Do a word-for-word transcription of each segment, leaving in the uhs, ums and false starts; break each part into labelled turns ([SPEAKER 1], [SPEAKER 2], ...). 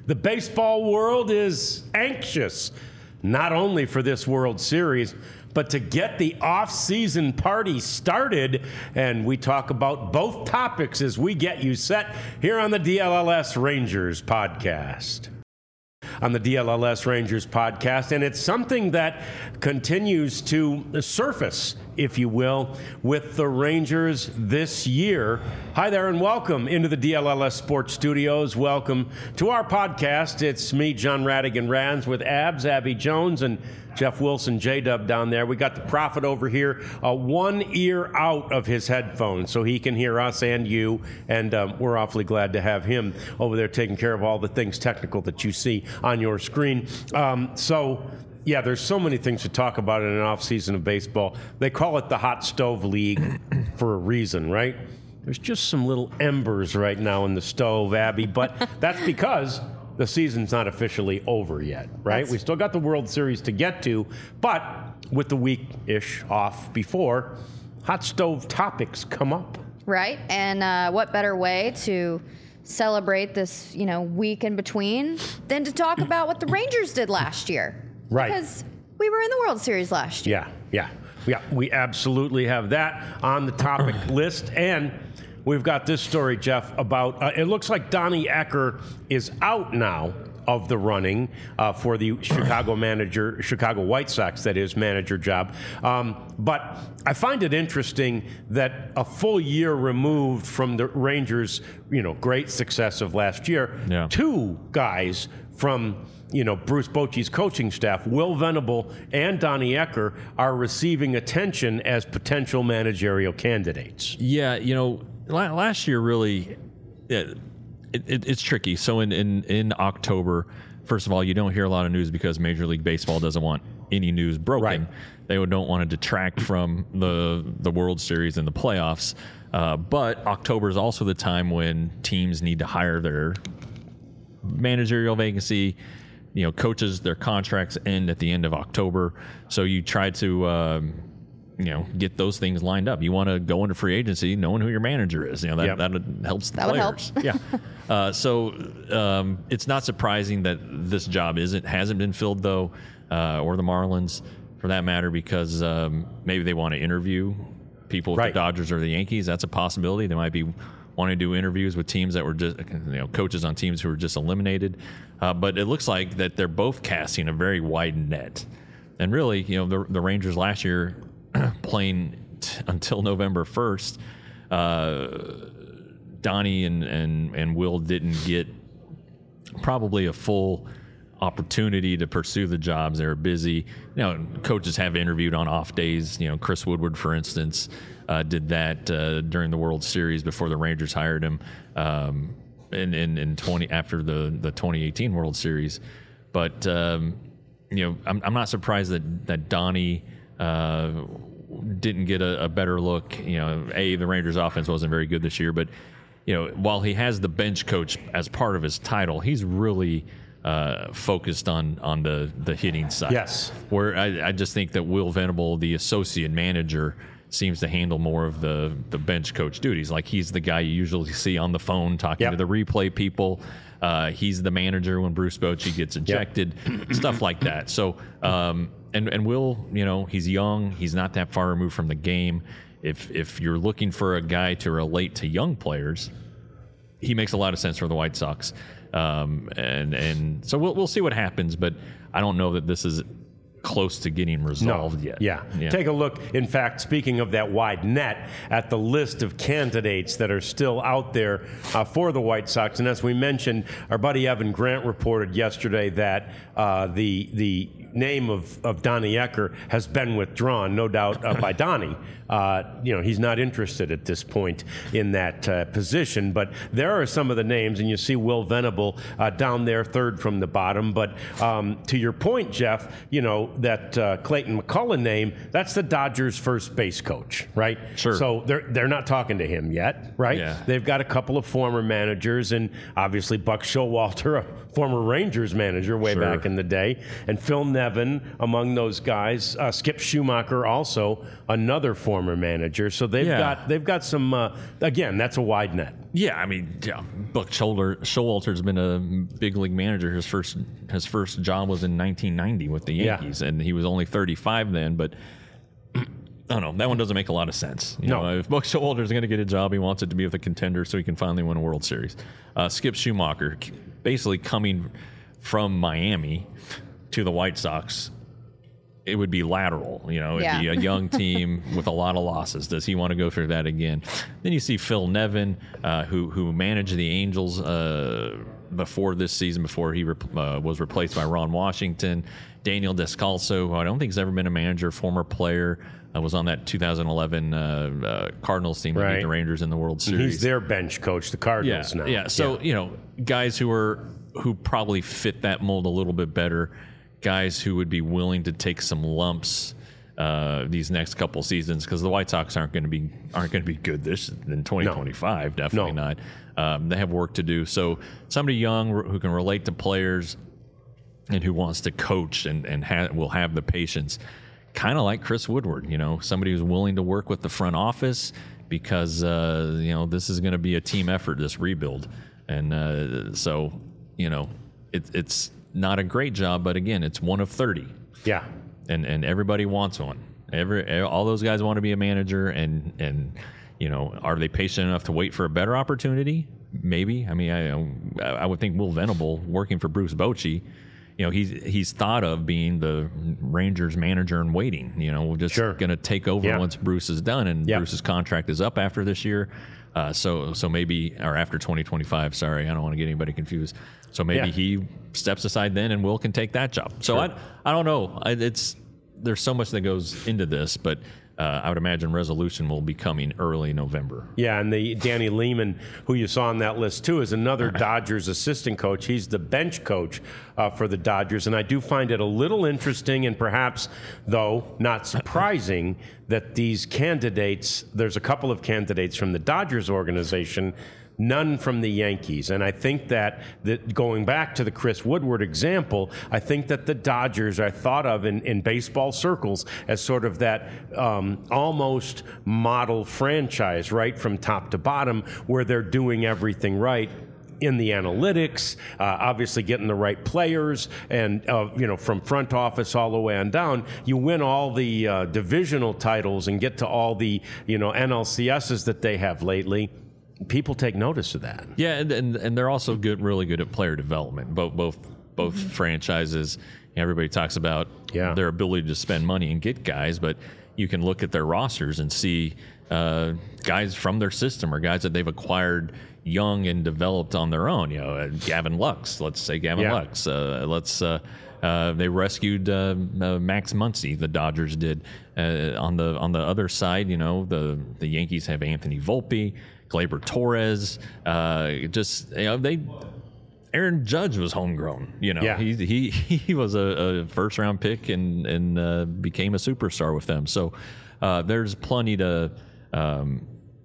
[SPEAKER 1] The baseball world is anxious, not only for this World Series, but to get the off-season party started. And we talk about both topics as we get you set here on the D L L S Rangers podcast. On the D L L S Rangers podcast, and it's something that continues to surface, if you will, with the Rangers this year. Hi there and welcome into the D L L S Sports Studios. Welcome to our podcast. It's me, John Radigan-Rands, with Abs, Abby Jones, and Jeff Wilson, J-Dub down there. We got the Prophet over here, uh, one ear out of his headphones, so he can hear us and you, and um, we're awfully glad to have him over there taking care of all the things technical that you see on your screen. Um, so, yeah, there's so many things to talk about in an off-season of baseball. They call it the Hot Stove League for a reason, right? There's just some little embers right now in the stove, Abby, but that's because the season's not officially over yet, right? That's... We still got the World Series to get to, but with the week-ish off before, hot stove topics come up.
[SPEAKER 2] Right, and uh, what better way to celebrate this, you know, week in between than to talk about what the Rangers did last year.
[SPEAKER 1] Right.
[SPEAKER 2] Because we were in the World Series last year.
[SPEAKER 1] Yeah, yeah, yeah. We absolutely have that on the topic list, and we've got this story, Jeff, about, uh, it looks like Donnie Ecker is out now of the running uh, for the Chicago manager, Chicago White Sox, that is, manager job. Um, but I find it interesting that a full year removed from the Rangers, you know, great success of last year, yeah. two guys from, you know, Bruce Bochy's coaching staff, Will Venable and Donnie Ecker, are receiving attention as potential managerial candidates.
[SPEAKER 3] Yeah, you know, last year really, it, it, it's tricky. So in, in, in October, first of all, you don't hear a lot of news because Major League Baseball doesn't want any news broken.
[SPEAKER 1] Right.
[SPEAKER 3] They don't want to detract from the the World Series and the playoffs. Uh, but October is also the time when teams need to hire their managerial vacancy. You know, coaches, their contracts end at the end of October. So you try to... Um, you know, get those things lined up. You want to go into free agency knowing who your manager is. You know, that, yep. that helps the
[SPEAKER 2] that
[SPEAKER 3] players.
[SPEAKER 2] Would help.
[SPEAKER 3] yeah. Uh, so um, it's not surprising that this job isn't hasn't been filled, though, uh, or the Marlins, for that matter, because um, maybe they want to interview people with right. the Dodgers or the Yankees. That's a possibility. They might be wanting to do interviews with teams that were just, you know, coaches on teams who were just eliminated. Uh, but it looks like that they're both casting a very wide net. And really, you know, the, the Rangers last year, playing t- until November first, uh, Donnie and, and, and Will didn't get probably a full opportunity to pursue the jobs. They were busy. You know, coaches have interviewed on off days. You know, Chris Woodward, for instance, uh, did that uh, during the World Series before the Rangers hired him um, in, in, in twenty after the, the twenty eighteen World Series. But, um, you know, I'm, I'm not surprised that, that Donnie Uh, didn't get a, a better look. You know, A, the Rangers offense wasn't very good this year, but, you know, while he has the bench coach as part of his title, he's really uh, focused on, on the, the hitting side.
[SPEAKER 1] Yes.
[SPEAKER 3] Where I, I just think that Will Venable, the associate manager, seems to handle more of the, the bench coach duties. Like, he's the guy you usually see on the phone talking yep. to the replay people. Uh, he's the manager when Bruce Bochy gets ejected, yep. stuff like that. So, um, and and Will, you know, he's young. He's not that far removed from the game. If if you're looking for a guy to relate to young players, he makes a lot of sense for the White Sox. Um, and and so we'll we'll see what happens. But I don't know that this is close to getting resolved
[SPEAKER 1] no.
[SPEAKER 3] yet.
[SPEAKER 1] Yeah. yeah. Take a look, in fact, speaking of that wide net, at the list of candidates that are still out there uh, for the White Sox. And as we mentioned, our buddy Evan Grant reported yesterday that uh, the the name of, of Donnie Ecker has been withdrawn, no doubt uh, by Donnie. Uh, you know, he's not interested at this point in that uh, position. But there are some of the names, and you see Will Venable uh, down there, third from the bottom. But um, to your point, Jeff, you know, that uh, Clayton McCullough name, that's the Dodgers' first base coach, right?
[SPEAKER 3] Sure.
[SPEAKER 1] So they're they're not talking to him yet, right?
[SPEAKER 3] Yeah.
[SPEAKER 1] They've got a couple of former managers, and obviously Buck Showalter, a former Rangers manager way
[SPEAKER 3] Sure.
[SPEAKER 1] back in the day, and Phil Nevin among those guys. Uh, Skip Schumacher, also another former manager. So they've
[SPEAKER 3] Yeah.
[SPEAKER 1] got they've got some. Uh, again, that's a wide net.
[SPEAKER 3] Yeah, I mean, yeah, Buck Showalter, Showalter's been a big league manager. His first his first job was in nineteen ninety with the Yankees, yeah. and he was only thirty-five then. But I don't know. That one doesn't make a lot of sense. You
[SPEAKER 1] no.
[SPEAKER 3] know, if Buck Showalter is going to get a job, he wants it to be with a contender so he can finally win a World Series. Uh, Skip Schumacher, basically coming from Miami to the White Sox, it would be lateral. You know, it'd
[SPEAKER 2] yeah.
[SPEAKER 3] be a young team with a lot of losses. Does he want to go through that again? Then you see Phil Nevin, uh, who who managed the Angels uh, before this season, before he rep- uh, was replaced by Ron Washington. Daniel Descalso, who I don't think has ever been a manager, former player, uh, was on that two thousand eleven uh, uh, Cardinals team that
[SPEAKER 1] right.
[SPEAKER 3] beat the Rangers in the World Series.
[SPEAKER 1] He's their bench coach, the Cardinals
[SPEAKER 3] yeah,
[SPEAKER 1] now.
[SPEAKER 3] Yeah, so,
[SPEAKER 1] yeah.
[SPEAKER 3] you know, guys who are who probably fit that mold a little bit better, guys who would be willing to take some lumps uh, these next couple seasons, because the White Sox aren't going to be aren't going to be good this in twenty twenty-five. No. Definitely no. not. Um, they have work to do. So somebody young who can relate to players and who wants to coach and and ha- will have the patience, kind of like Chris Woodward. You know, somebody who's willing to work with the front office because uh, you know this is going to be a team effort, this rebuild, and uh, so you know it, it's. Not a great job, but again, it's one of thirty.
[SPEAKER 1] Yeah,
[SPEAKER 3] and and everybody wants one. Every all those guys want to be a manager, and and you know, are they patient enough to wait for a better opportunity? Maybe. I mean, I I would think Will Venable working for Bruce Bochy, you know, he's he's thought of being the Rangers manager in waiting. You know, we're just
[SPEAKER 1] sure.
[SPEAKER 3] going to take over
[SPEAKER 1] yeah.
[SPEAKER 3] once Bruce is done, and
[SPEAKER 1] yeah.
[SPEAKER 3] Bruce's contract is up after this year. Uh, so so maybe or after twenty twenty-five. Sorry, I don't want to get anybody confused. So maybe
[SPEAKER 1] yeah.
[SPEAKER 3] he steps aside then, and Will can take that job. So
[SPEAKER 1] sure.
[SPEAKER 3] I I don't know. I, it's there's so much that goes into this, but uh, I would imagine resolution will be coming early November.
[SPEAKER 1] Yeah, and the Danny Lehman, who you saw on that list too, is another Dodgers assistant coach. He's the bench coach uh, for the Dodgers, and I do find it a little interesting and perhaps, though, not surprising that these candidates, there's a couple of candidates from the Dodgers organization, none from the Yankees. And I think that, that going back to the Chris Woodward example, I think that the Dodgers are thought of in, in baseball circles as sort of that um, almost model franchise, right, from top to bottom, where they're doing everything right in the analytics, uh, obviously getting the right players, and uh, you know, from front office all the way on down, you win all the uh, divisional titles and get to all the, you know, N L C S's that they have lately. People take notice of that.
[SPEAKER 3] Yeah, and, and and they're also good, really good at player development. Both both both mm-hmm. franchises. Everybody talks about
[SPEAKER 1] yeah.
[SPEAKER 3] their ability to spend money and get guys, but you can look at their rosters and see uh, guys from their system or guys that they've acquired young and developed on their own. You know, uh, Gavin Lux. Let's say Gavin
[SPEAKER 1] yeah.
[SPEAKER 3] Lux. Uh, let's. Uh, Uh, they rescued uh, uh, Max Muncy. The Dodgers did. Uh, on the on the other side, you know, the the Yankees have Anthony Volpe, Gleyber Torres. Uh, just you know, they. Aaron Judge was homegrown. You know,
[SPEAKER 1] yeah.
[SPEAKER 3] he he he was a, a first round pick and and uh, became a superstar with them. So uh, there's plenty to. Um,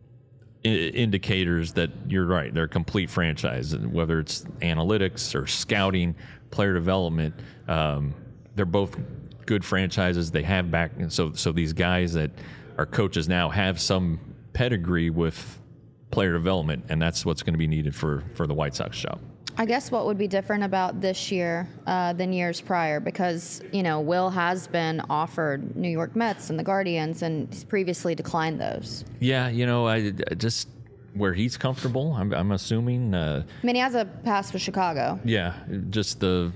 [SPEAKER 3] indicators that you're right, they're a complete franchise, whether it's analytics or scouting, player development. Um, they're both good franchises. They have back, so so these guys that are coaches now have some pedigree with player development, and that's what's going to be needed for for the White Sox job.
[SPEAKER 2] I guess what would be different about this year uh, than years prior, because, you know, Will has been offered New York Mets and the Guardians, and he's previously declined those.
[SPEAKER 3] Yeah, you know, I, I just where he's comfortable, I'm, I'm assuming. Uh,
[SPEAKER 2] I mean, he has a pass with Chicago.
[SPEAKER 3] Yeah, just the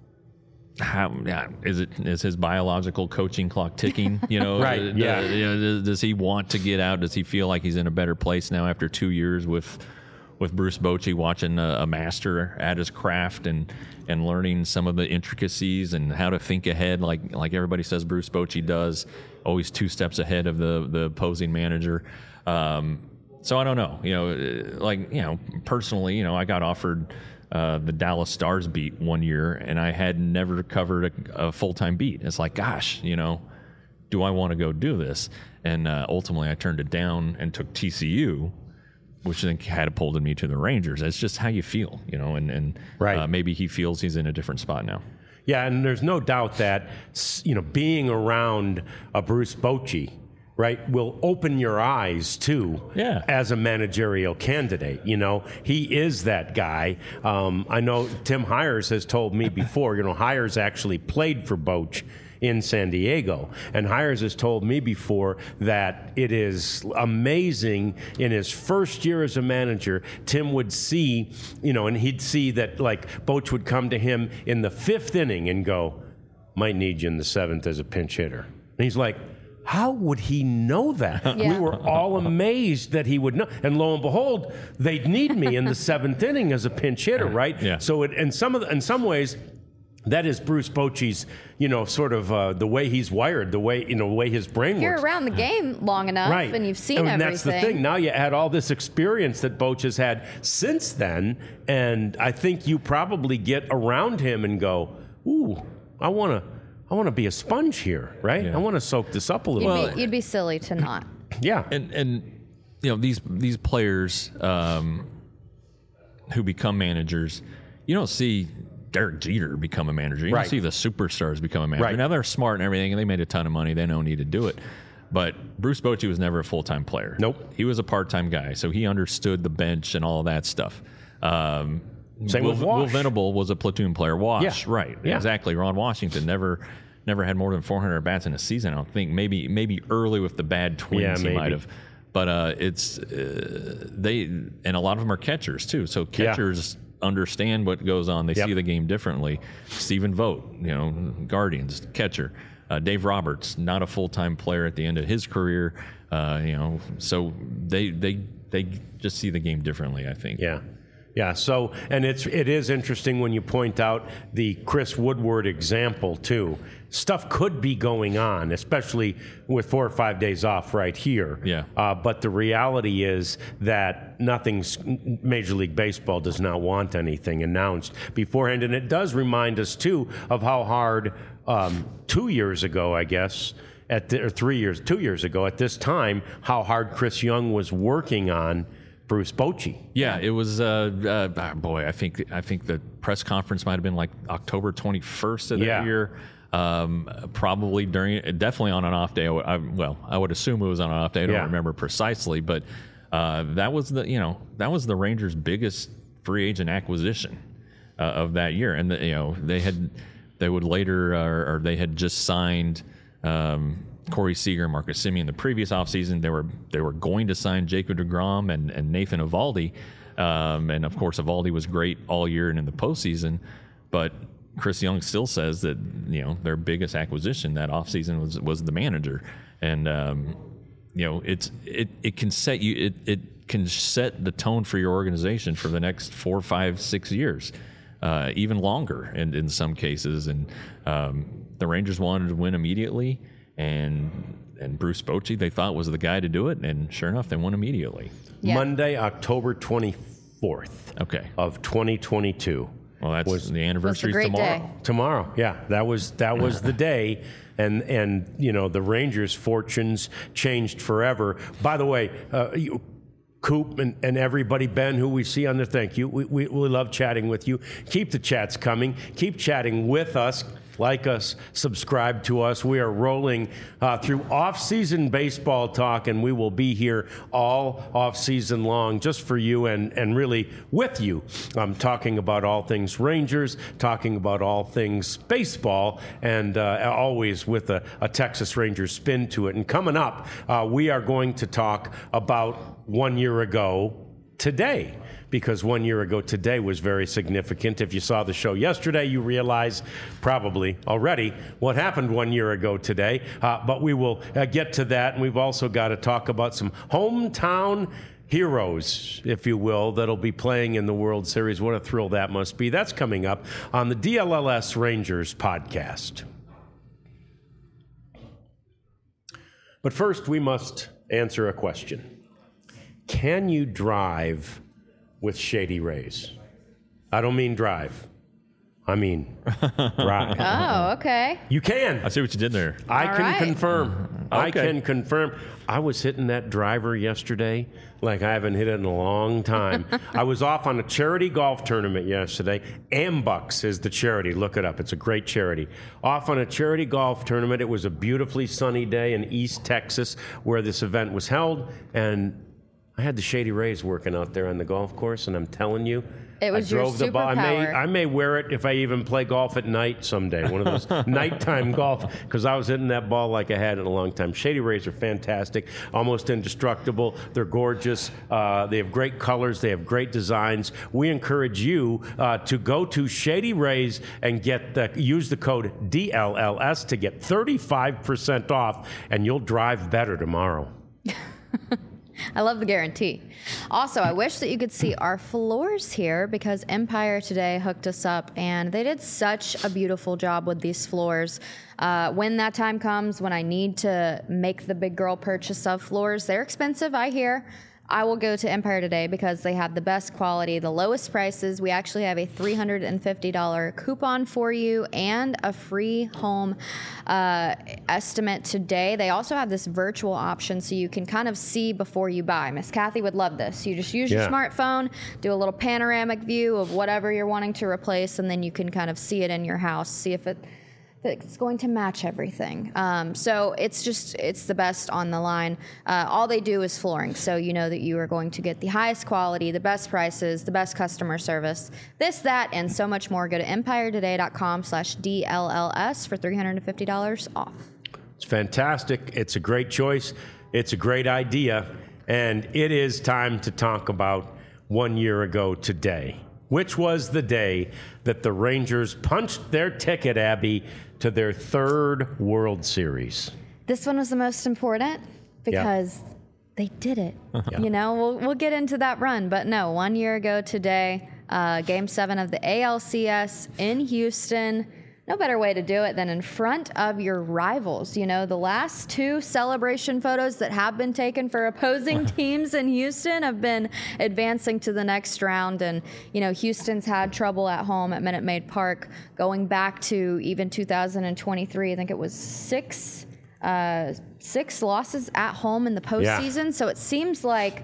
[SPEAKER 3] how yeah, is it is his biological coaching clock ticking? You know,
[SPEAKER 1] right?
[SPEAKER 3] uh,
[SPEAKER 1] Yeah.
[SPEAKER 3] You know, does, does he want to get out? Does he feel like he's in a better place now after two years with? with Bruce Bochy, watching a, a master at his craft and and learning some of the intricacies and how to think ahead, like like everybody says Bruce Bochy does, always two steps ahead of the the opposing manager. Um, so I don't know, you know, like you know, personally, you know, I got offered uh, the Dallas Stars beat one year, and I had never covered a, a full time beat. It's like, gosh, you know, do I want to go do this? And uh, ultimately, I turned it down and took T C U, which then catapulted me to the Rangers. It's just how you feel, you know, and, and
[SPEAKER 1] right.
[SPEAKER 3] uh, maybe he feels he's in a different spot now.
[SPEAKER 1] Yeah, and there's no doubt that, you know, being around a Bruce Bochy, right, will open your eyes too
[SPEAKER 3] Yeah.
[SPEAKER 1] as a managerial candidate. You know, he is that guy. Um, I know Tim Hires has told me before, you know, Hires actually played for Boch in San Diego. And Hires has told me before that it is amazing in his first year as a manager, Tim would see, you know, and he'd see that like Boch would come to him in the fifth inning and go, might need you in the seventh as a pinch hitter. And he's like, how would he know that?
[SPEAKER 2] Yeah.
[SPEAKER 1] We were all amazed that he would know. And lo and behold, they'd need me in the seventh inning as a pinch hitter, right?
[SPEAKER 3] Yeah.
[SPEAKER 1] So it, in some of the, in some ways, that is Bruce Bochy's, you know, sort of uh, the way he's wired, the way, you know, the way his brain
[SPEAKER 2] If you're
[SPEAKER 1] works.
[SPEAKER 2] around the game long enough
[SPEAKER 1] Right.
[SPEAKER 2] and you've seen
[SPEAKER 1] and
[SPEAKER 2] everything.
[SPEAKER 1] that's the thing. Now you add all this experience that Boch has had since then, and I think you probably get around him and go, ooh, I want to I want to be a sponge here, right?
[SPEAKER 3] Yeah.
[SPEAKER 1] I want to soak this up a little
[SPEAKER 2] You'd,
[SPEAKER 1] bit.
[SPEAKER 2] be, you'd be silly to not.
[SPEAKER 1] Yeah.
[SPEAKER 3] And and you know these these players um, who become managers, you don't see Derek Jeter become a manager. You
[SPEAKER 1] Right.
[SPEAKER 3] don't see the superstars become a manager.
[SPEAKER 1] Right.
[SPEAKER 3] Now they're smart and everything, and they made a ton of money. They don't need to do it. But Bruce Bochy was never a full time player.
[SPEAKER 1] Nope.
[SPEAKER 3] He was a part time guy, so he understood the bench and all of that stuff. Um,
[SPEAKER 1] Same
[SPEAKER 3] Will,
[SPEAKER 1] with
[SPEAKER 3] Will
[SPEAKER 1] Wash.
[SPEAKER 3] Venable was a platoon player. Wash,
[SPEAKER 1] Yeah.
[SPEAKER 3] right?
[SPEAKER 1] Yeah.
[SPEAKER 3] Exactly. Ron Washington never. Never had more than four hundred bats in a season. I don't think. Maybe maybe early with the bad Twins
[SPEAKER 1] Yeah,
[SPEAKER 3] he
[SPEAKER 1] maybe.
[SPEAKER 3] might have. But uh, it's uh, they and a lot of them are catchers too. So catchers understand what goes on. They
[SPEAKER 1] Yep.
[SPEAKER 3] see the game differently. Stephen Vogt, you know, Guardians catcher. Uh, Dave Roberts, not a full time player at the end of his career. Uh, you know, so they they they just see the game differently. I think.
[SPEAKER 1] Yeah. Yeah, so, and it's, it is interesting when you point out the Chris Woodward example, too. Stuff could be going on, especially with four or five days off right here.
[SPEAKER 3] Yeah.
[SPEAKER 1] Uh, but the reality is that nothing's, Major League Baseball does not want anything announced beforehand. And it does remind us, too, of how hard um, two years ago, I guess, at the, or three years, two years ago at this time, how hard Chris Young was working on Bruce Bochy.
[SPEAKER 3] Yeah, it was. Uh, uh, boy, I think I think the press conference might have been like October twenty-first of that
[SPEAKER 1] Yeah.
[SPEAKER 3] year. Um, probably during, definitely on an off day. I, would- I, well, I would assume it was on an off day. I don't
[SPEAKER 1] Yeah.
[SPEAKER 3] remember precisely, but uh, that was the you know that was the Rangers' biggest free agent acquisition uh, of that year, and the, you know they had they would later uh, or they had just signed. Um, Corey Seager and Marcus Semien the previous offseason. They were they were going to sign Jacob deGrom and, and Nathan Eovaldi. Um, and, of course, Eovaldi was great all year and in the postseason. But Chris Young still says that, you know, their biggest acquisition that offseason was was the manager. And, um, you know, it's it, it can set you it, it can set the tone for your organization for the next four, five, six years, uh, even longer in, in some cases. And um, the Rangers wanted to win immediately. And and Bruce Bochy, they thought was the guy to do it, and sure enough, they won immediately.
[SPEAKER 2] Yeah.
[SPEAKER 1] Monday, October twenty-fourth
[SPEAKER 3] Okay,
[SPEAKER 1] of twenty twenty-two.
[SPEAKER 3] well that's
[SPEAKER 1] was-
[SPEAKER 3] the anniversary
[SPEAKER 2] great
[SPEAKER 3] tomorrow.
[SPEAKER 2] day.
[SPEAKER 1] Tomorrow, yeah, that was that was the day, and and you know the Rangers' fortunes changed forever. By the way, uh, you, Coop and, and everybody, Ben, who we see on there, thank you. We, we we love chatting with you. Keep the chats coming. Keep chatting with us. Like us, subscribe to us. We are rolling uh, through off-season baseball talk, and we will be here all off-season long just for you and, and really with you. I'm talking about all things Rangers, talking about all things baseball, and uh, always with a, a Texas Rangers spin to it. And coming up, uh, we are going to talk about one year ago today. Because one year ago today was very significant. If you saw the show yesterday, you realize probably already what happened one year ago today. Uh, but we will uh, get to that, and we've also got to talk about some hometown heroes, if you will, that'll be playing in the World Series. What a thrill that must be. That's coming up on the D L L S Rangers podcast. But first, we must answer a question. Can you drive with Shady Rays? I don't mean drive. I mean drive.
[SPEAKER 2] Oh, okay.
[SPEAKER 1] You can.
[SPEAKER 3] I see what you did there.
[SPEAKER 1] I
[SPEAKER 2] All
[SPEAKER 1] can
[SPEAKER 2] right.
[SPEAKER 1] confirm. I
[SPEAKER 3] Okay.
[SPEAKER 1] can confirm. I was hitting that driver yesterday like I haven't hit it in a long time. I was off on a charity golf tournament yesterday. Ambucks is the charity. Look it up. It's a great charity. Off on a charity golf tournament. It was a beautifully sunny day in East Texas where this event was held, and I had the Shady Rays working out there on the golf course, and I'm telling you,
[SPEAKER 2] It was
[SPEAKER 1] I
[SPEAKER 2] your
[SPEAKER 1] drove the ball. I may,
[SPEAKER 2] superpower.
[SPEAKER 1] I may wear it if I even play golf at night someday. One of those nighttime golf, because I was hitting that ball like I had in a long time. Shady Rays are fantastic, almost indestructible. They're gorgeous. Uh, they have great colors. They have great designs. We encourage you uh, to go to Shady Rays and get the, use the code D L L S to get thirty-five percent off, and you'll drive better tomorrow.
[SPEAKER 2] I love the guarantee. Also, I wish that you could see our floors here because Empire today hooked us up and they did such a beautiful job with these floors. Uh, when that time comes, when I need to make the big girl purchase of floors, they're expensive, I hear. I will go to Empire today because they have the best quality, the lowest prices. We actually have a three hundred fifty dollars coupon for you and a free home uh, estimate today. They also have this virtual option so you can kind of see before you buy. Miss Kathy would love this. You just use your
[SPEAKER 1] Yeah.
[SPEAKER 2] smartphone, do a little panoramic view of whatever you're wanting to replace, and then you can kind of see it in your house, see if it it's going to match everything. Um, so it's just, it's the best on the line. Uh, all they do is flooring. So you know that you are going to get the highest quality, the best prices, the best customer service, this, that, and so much more. Go to empiretoday.com slash DLLS for three hundred fifty dollars off.
[SPEAKER 1] It's fantastic. It's a great choice. It's a great idea. And it is time to talk about one year ago today, which was the day that the Rangers punched their ticket, Abby, to their third World Series.
[SPEAKER 2] This one was the most important because they did it.
[SPEAKER 1] Yeah.
[SPEAKER 2] You know, we'll, we'll get into that run. But no, one year ago today, uh, game seven of the A L C S in Houston. No better way to do it than in front of your rivals. You know, the last two celebration photos that have been taken for opposing teams in Houston have been advancing to the next round. And, you know, Houston's had trouble at home at Minute Maid Park going back to even two thousand twenty-three. I think it was six, uh, six losses at home in the postseason. Yeah. So it seems like,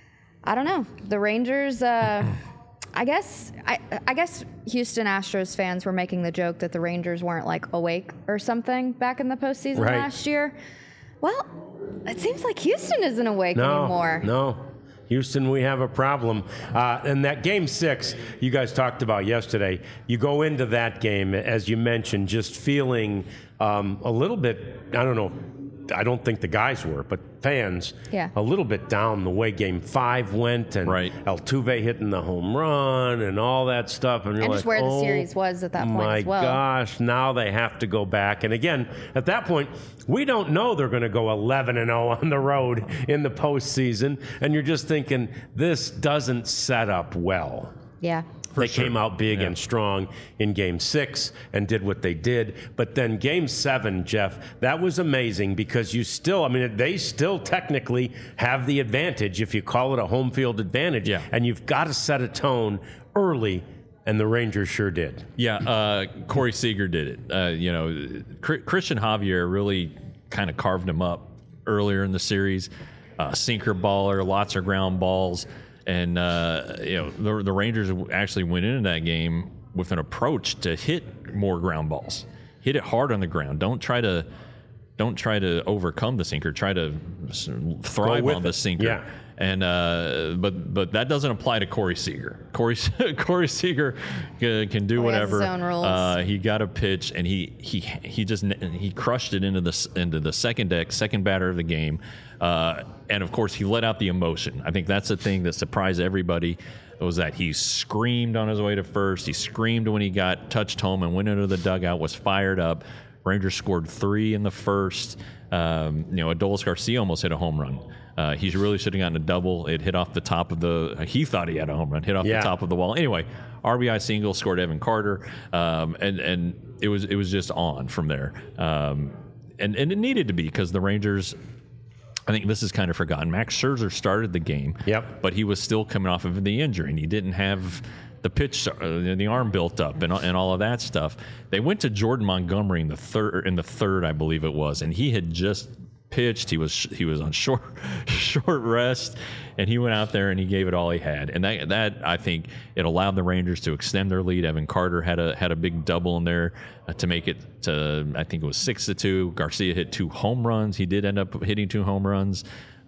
[SPEAKER 2] I don't know, the Rangers... Uh, I guess I, I guess Houston Astros fans were making the joke that the Rangers weren't like awake or something back in the postseason
[SPEAKER 1] Right.
[SPEAKER 2] last year. Well, it seems like Houston isn't awake
[SPEAKER 1] no,
[SPEAKER 2] anymore.
[SPEAKER 1] No, Houston, we have a problem. Uh, and that game six you guys talked about yesterday, you go into that game, as you mentioned, just feeling um, a little bit, I don't know, I don't think the guys were, but fans,
[SPEAKER 2] Yeah.
[SPEAKER 1] a little bit down the way game five went, and
[SPEAKER 3] Right.
[SPEAKER 1] Altuve hitting the home run and all that stuff. And, you're
[SPEAKER 2] And
[SPEAKER 1] like,
[SPEAKER 2] just where the
[SPEAKER 1] oh,
[SPEAKER 2] series was at that point
[SPEAKER 1] my
[SPEAKER 2] as well.
[SPEAKER 1] gosh, now they have to go back. And again, at that point, we don't know they're going to go eleven and oh on the road in the postseason. And you're just thinking, this doesn't set up well.
[SPEAKER 2] Yeah.
[SPEAKER 1] They
[SPEAKER 3] sure.
[SPEAKER 1] came out big
[SPEAKER 3] Yeah.
[SPEAKER 1] and strong in game six and did what they did. But then game seven, Jeff, that was amazing because you still, I mean, they still technically have the advantage if you call it a home field advantage.
[SPEAKER 3] Yeah.
[SPEAKER 1] And you've got to set a tone early, and the Rangers sure did.
[SPEAKER 3] Yeah, uh, Corey Seager did it. Uh, you know, Cr- Christian Javier really kind of carved him up earlier in the series. Uh, sinker baller, lots of ground balls. And, uh, you know, the, the Rangers actually went into that game with an approach to hit more ground balls. Hit it hard on the ground. Don't try to don't try to overcome the sinker. Try to thrive
[SPEAKER 1] with
[SPEAKER 3] on the
[SPEAKER 1] it.
[SPEAKER 3] sinker.
[SPEAKER 1] Yeah.
[SPEAKER 3] And uh, but but that doesn't apply to Corey Seager. Corey Corey Seager can, can do
[SPEAKER 2] Corey has
[SPEAKER 3] whatever.
[SPEAKER 2] his own rules.
[SPEAKER 3] Uh, he got a pitch and he he he just he crushed it into the into the second deck, second batter of the game. Uh, and of course, he let out the emotion. I think that's the thing that surprised everybody. Was that he screamed on his way to first. He screamed when he got touched home and went into the dugout. Was fired up. Rangers scored three in the first. Um, you know, Adolis Garcia almost hit a home run. Uh, he really should have gotten a double. It hit off the top of the. He thought he had a home run. Hit off
[SPEAKER 1] Yeah.
[SPEAKER 3] the top of the wall. Anyway, R B I single scored Evan Carter, um, and and it was it was just on from there. Um, and and it needed to be because the Rangers. I think this is kind of forgotten. Max Scherzer started the game.
[SPEAKER 1] Yep.
[SPEAKER 3] But he was still coming off of the injury, and he didn't have the pitch, uh, the arm built up, and and all of that stuff. They went to Jordan Montgomery in the third, in the third, I believe it was, and he had just pitched. He was he was on short short rest, and he went out there and he gave it all he had. And that that I think it allowed the Rangers to extend their lead. Evan Carter had a had a big double in there uh, to make it to, I think it was six to two. Garcia hit two home runs. He did end up hitting two home runs,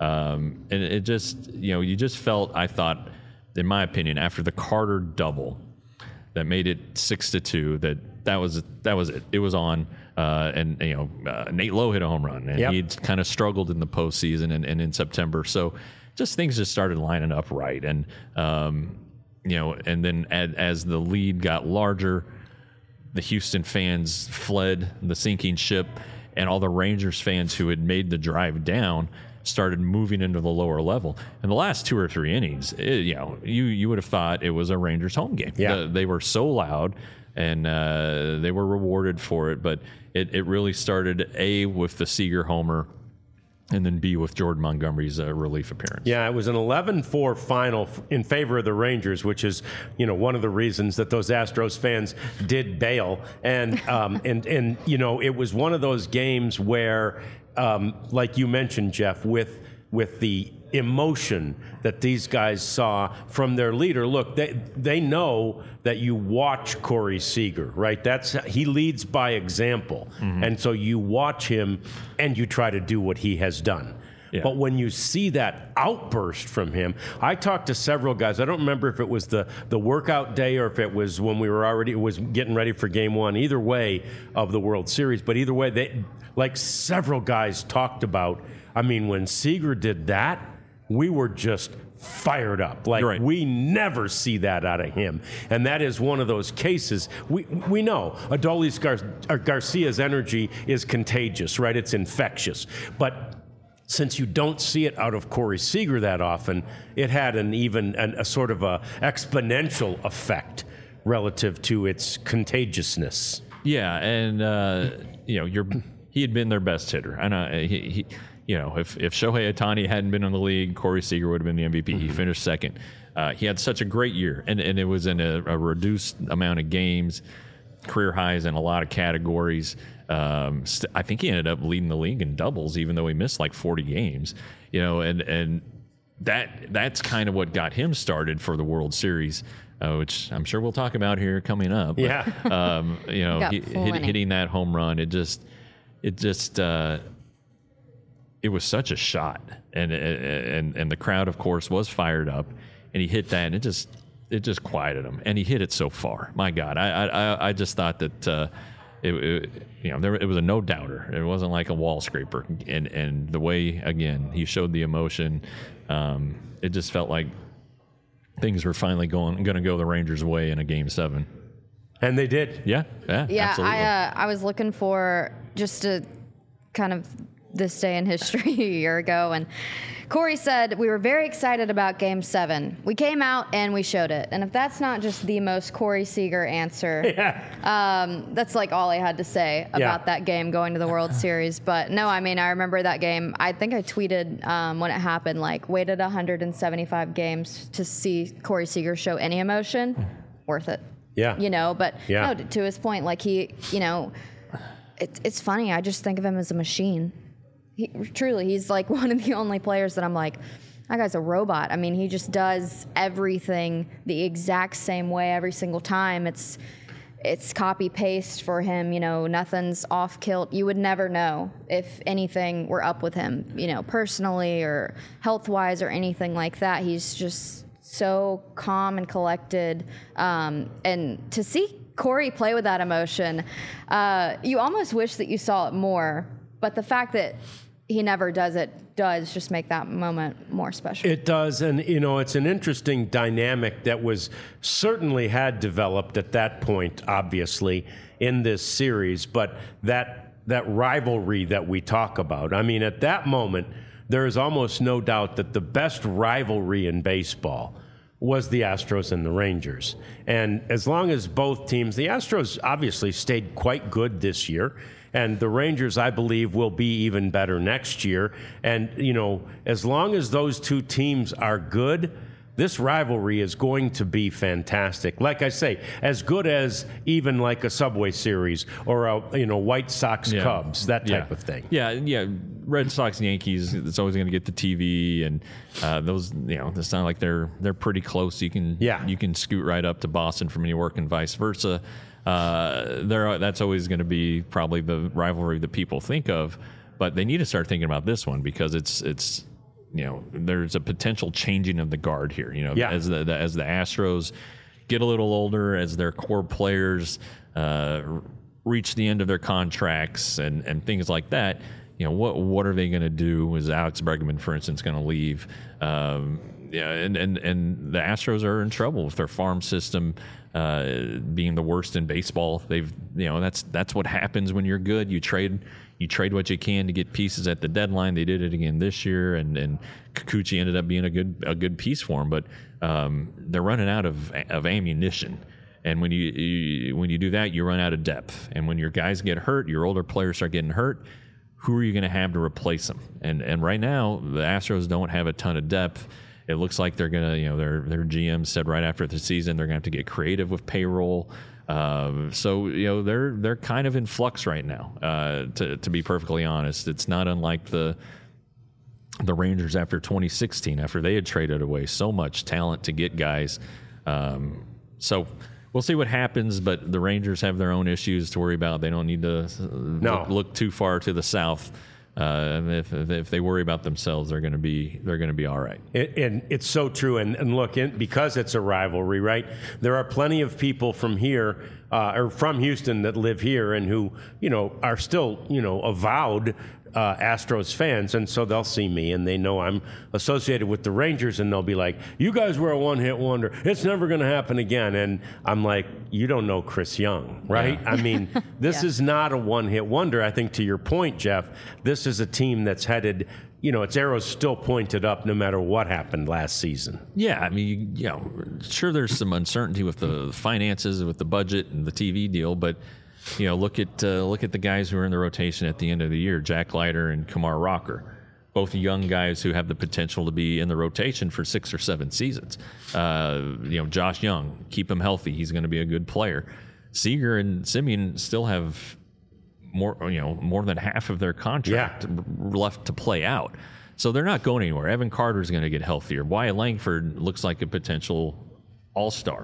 [SPEAKER 3] um, and it just you know you just felt, I thought, in my opinion, after the Carter double that made it six to two, that that was that was it. It was on. Uh, and, you know, uh, Nate Lowe hit a home run, and
[SPEAKER 1] yep.
[SPEAKER 3] he'd kind of struggled in the postseason and, and in September. So just things just started lining up right. And, um, you know, and then as, as the lead got larger, the Houston fans fled the sinking ship, and all the Rangers fans who had made the drive down started moving into the lower level. In the last two or three innings, it, you know, you, you would have thought it was a Rangers home game.
[SPEAKER 1] Yeah.
[SPEAKER 3] The, they were so loud, and uh, they were rewarded for it. But it, it really started, A, with the Seager homer, and then B, with Jordan Montgomery's uh, relief appearance.
[SPEAKER 1] Yeah, it was an eleven four final in favor of the Rangers, which is, you know, one of the reasons that those Astros fans did bail. And, um, and, and you know, it was one of those games where, um, like you mentioned, Jeff, with with the emotion that these guys saw from their leader. Look, they they know that you watch Corey Seager, right? That's he leads by example. Mm-hmm. And so you watch him and you try to do what he has done. Yeah. But when you see that outburst from him, I talked to several guys. I don't remember if it was the, the workout day or if it was when we were already was getting ready for game one, either way of the World Series. But either way, they like several guys talked about, I mean, when Seager did that, we were just fired up. Like, right. We never see that out of him. And that is one of those cases. We we know Adolis Gar- Garcia's energy is contagious, right? It's infectious. But since you don't see it out of Corey Seager that often, it had an even an, a sort of a exponential effect relative to its contagiousness.
[SPEAKER 3] Yeah, and uh, you know, you're he had been their best hitter. I know he. he You know, if, if Shohei Ohtani hadn't been in the league, Corey Seager would have been the M V P. Mm-hmm. He finished second. Uh, he had such a great year, and, and it was in a, a reduced amount of games, career highs in a lot of categories. Um, st- I think he ended up leading the league in doubles, even though he missed like forty games. You know, and and that that's kind of what got him started for the World Series, uh, which I'm sure we'll talk about here coming up. But,
[SPEAKER 1] yeah.
[SPEAKER 3] um, you know, he, hit, hitting that home run, it just, it just. Uh, It was such a shot, and and and the crowd, of course, was fired up, and he hit that, and it just it just quieted him, and he hit it so far. My God, I I, I just thought that uh, it, it you know there it was a no doubter. It wasn't like a wall scraper, and and the way again he showed the emotion, um, it just felt like things were finally going going to go the Rangers' way in a game seven,
[SPEAKER 1] and they did.
[SPEAKER 3] Yeah, yeah,
[SPEAKER 2] yeah.
[SPEAKER 3] absolutely.
[SPEAKER 2] I uh, I was looking for just a kind of. This day in history a year ago, and Corey said, we were very excited about game seven. We came out and we showed it. And if that's not just the most Corey Seager answer,
[SPEAKER 1] yeah.
[SPEAKER 2] um, that's like all I had to say about
[SPEAKER 1] yeah.
[SPEAKER 2] that game going to the World Series. But no, I mean, I remember that game. I think I tweeted um, when it happened, like, waited one hundred seventy-five games to see Corey Seager show any emotion. Worth it.
[SPEAKER 1] Yeah.
[SPEAKER 2] You know, but
[SPEAKER 1] yeah.
[SPEAKER 2] no, to his point, like he, you know, it, it's funny. I just think of him as a machine. He, truly, he's like one of the only players that I'm like, that guy's a robot. I mean, he just does everything the exact same way every single time. It's it's copy paste for him. You know, nothing's off kilt. You would never know if anything were up with him, you know, personally or health wise or anything like that. He's just so calm and collected. Um, and to see Corey play with that emotion, uh, you almost wish that you saw it more. But the fact that he never does it does just make that moment more special.
[SPEAKER 1] It does, and you know, it's an interesting dynamic that was certainly had developed at that point, obviously, in this series, but that that rivalry that we talk about. I mean, at that moment, there is almost no doubt that the best rivalry in baseball was the Astros and the Rangers. And as long as both teams, the Astros obviously stayed quite good this year, and the Rangers, I believe, will be even better next year. And, you know, as long as those two teams are good, this rivalry is going to be fantastic. Like I say, as good as even like a Subway Series or a, you know, White Sox
[SPEAKER 3] yeah.
[SPEAKER 1] Cubs, that type
[SPEAKER 3] yeah.
[SPEAKER 1] of thing.
[SPEAKER 3] Yeah, yeah. Red Sox, Yankees, it's always going to get the T V, and uh, those, you know, it's not like they're they're pretty close. You can
[SPEAKER 1] yeah.
[SPEAKER 3] you can scoot right up to Boston from New York and vice versa. Uh, there, that's always going to be probably the rivalry that people think of, but they need to start thinking about this one because it's it's you know there's a potential changing of the guard here. You know,
[SPEAKER 1] yeah.
[SPEAKER 3] as the, the as the Astros get a little older, as their core players uh, reach the end of their contracts and, and things like that, you know, what what are they going to do? Is Alex Bregman, for instance, going to leave? Um, yeah, and, and, and the Astros are in trouble with their farm system uh, being the worst in baseball. They've, you know, that's that's what happens when you're good. You trade you trade what you can to get pieces at the deadline. They did it again this year, and and Kikuchi ended up being a good a good piece for them. But um, they're running out of of ammunition. And when you, you when you do that, you run out of depth. And when your guys get hurt, your older players start getting hurt, who are you going to have to replace them? And and right now, the Astros don't have a ton of depth. It looks like they're going to, you know, their their G M said right after the season they're going to have to get creative with payroll. Um, so you know they're they're kind of in flux right now. Uh, to to be perfectly honest, it's not unlike the the Rangers after twenty sixteen, after they had traded away so much talent to get guys. Um, so. We'll see what happens, but the Rangers have their own issues to worry about. They don't need to
[SPEAKER 1] no.
[SPEAKER 3] look, look too far to the south. Uh, if, if they worry about themselves, they're going to be they're going to be all right.
[SPEAKER 1] It, and it's so true. And, and look, in, because it's a rivalry, right? There are plenty of people from here uh, or from Houston that live here and who you know are still you know avowed uh, Astros fans, and so they'll see me and they know I'm associated with the Rangers, and they'll be like, "You guys were a one-hit wonder. It's never going to happen again." And I'm like, "You don't know Chris Young, right?" Yeah. I mean, this yeah. is not a one-hit wonder. I think to your point, Jeff, this is a team that's headed. You know, its arrow's still pointed up no matter what happened last season.
[SPEAKER 3] Yeah, I mean, you know, sure, there's some uncertainty with the finances, with the budget and the T V deal, but you know, look at uh, look at the guys who are in the rotation at the end of the year: Jack Leiter and Kumar Rocker, both young guys who have the potential to be in the rotation for six or seven seasons. Uh, you know, Josh Young, keep him healthy; he's going to be a good player. Seager and Simeon still have more, you know, more than half of their contract yeah. left to play out. So they're not going anywhere. Evan Carter's going to get healthier. Wyatt Langford looks like a potential all-star.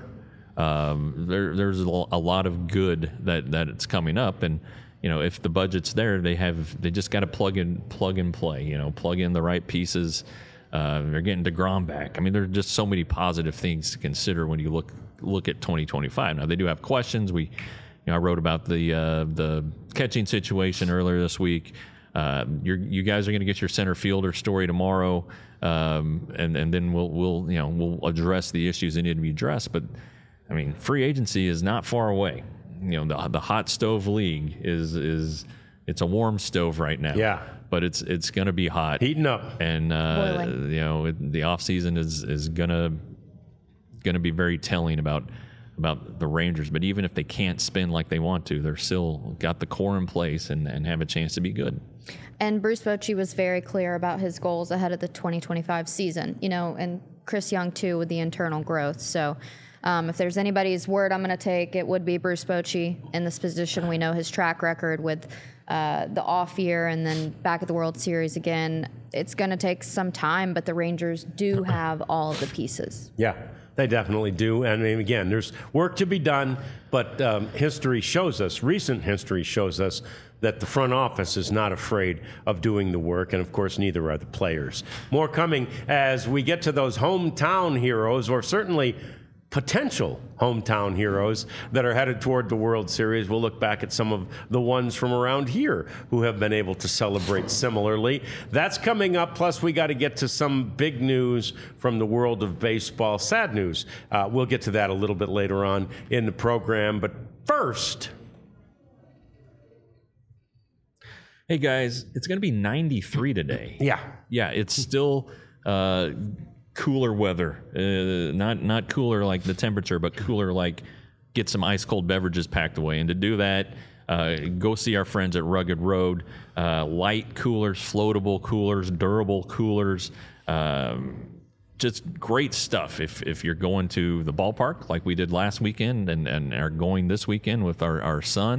[SPEAKER 3] Um, there, there's a lot of good that, that it's coming up. And, you know, if the budget's there, they have, they just got to plug in, plug and play, you know, plug in the right pieces. Uh, they're getting DeGrom back. I mean, there are just so many positive things to consider when you look, look at twenty twenty-five. Now they do have questions. We, You know, I wrote about the uh, the catching situation earlier this week. Uh, you're, you guys are going to get your center fielder story tomorrow, um, and and then we'll we'll you know we'll address the issues that need to be addressed. But I mean, free agency is not far away. You know, the the hot stove league is is it's a warm stove right now.
[SPEAKER 1] Yeah.
[SPEAKER 3] But it's it's going to be hot,
[SPEAKER 1] heating up,
[SPEAKER 3] and uh, you know it, the off season is is gonna gonna be very telling about. about the Rangers, but even if they can't spin like they want to, they're still got the core in place and, and have a chance to be good.
[SPEAKER 2] And Bruce Bochy was very clear about his goals ahead of the twenty twenty-five season, you know, and Chris Young too with the internal growth. So um, if there's anybody's word I'm going to take, it would be Bruce Bochy in this position. We know his track record with uh, the off year and then back at the World Series again. It's going to take some time, but the Rangers do have all of the pieces.
[SPEAKER 1] Yeah. They definitely do. And I mean, again, there's work to be done, but um, history shows us, recent history shows us that the front office is not afraid of doing the work, and of course, neither are the players. More coming as we get to those hometown heroes, or certainly potential hometown heroes that are headed toward the World Series. We'll look back at some of the ones from around here who have been able to celebrate similarly. That's coming up. Plus, we got to get to some big news from the world of baseball. Sad news. Uh, we'll get to that a little bit later on in the program. But first...
[SPEAKER 3] Hey, guys, it's going to be ninety-three today.
[SPEAKER 1] Yeah.
[SPEAKER 3] Yeah, it's still... Uh, cooler weather, uh, not not cooler like the temperature, but cooler like get some ice cold beverages packed away. And to do that, uh, go see our friends at Rugged Road. Uh, light coolers, floatable coolers, durable coolers, um, just great stuff. If if you're going to the ballpark like we did last weekend and, and are going this weekend with our, our son,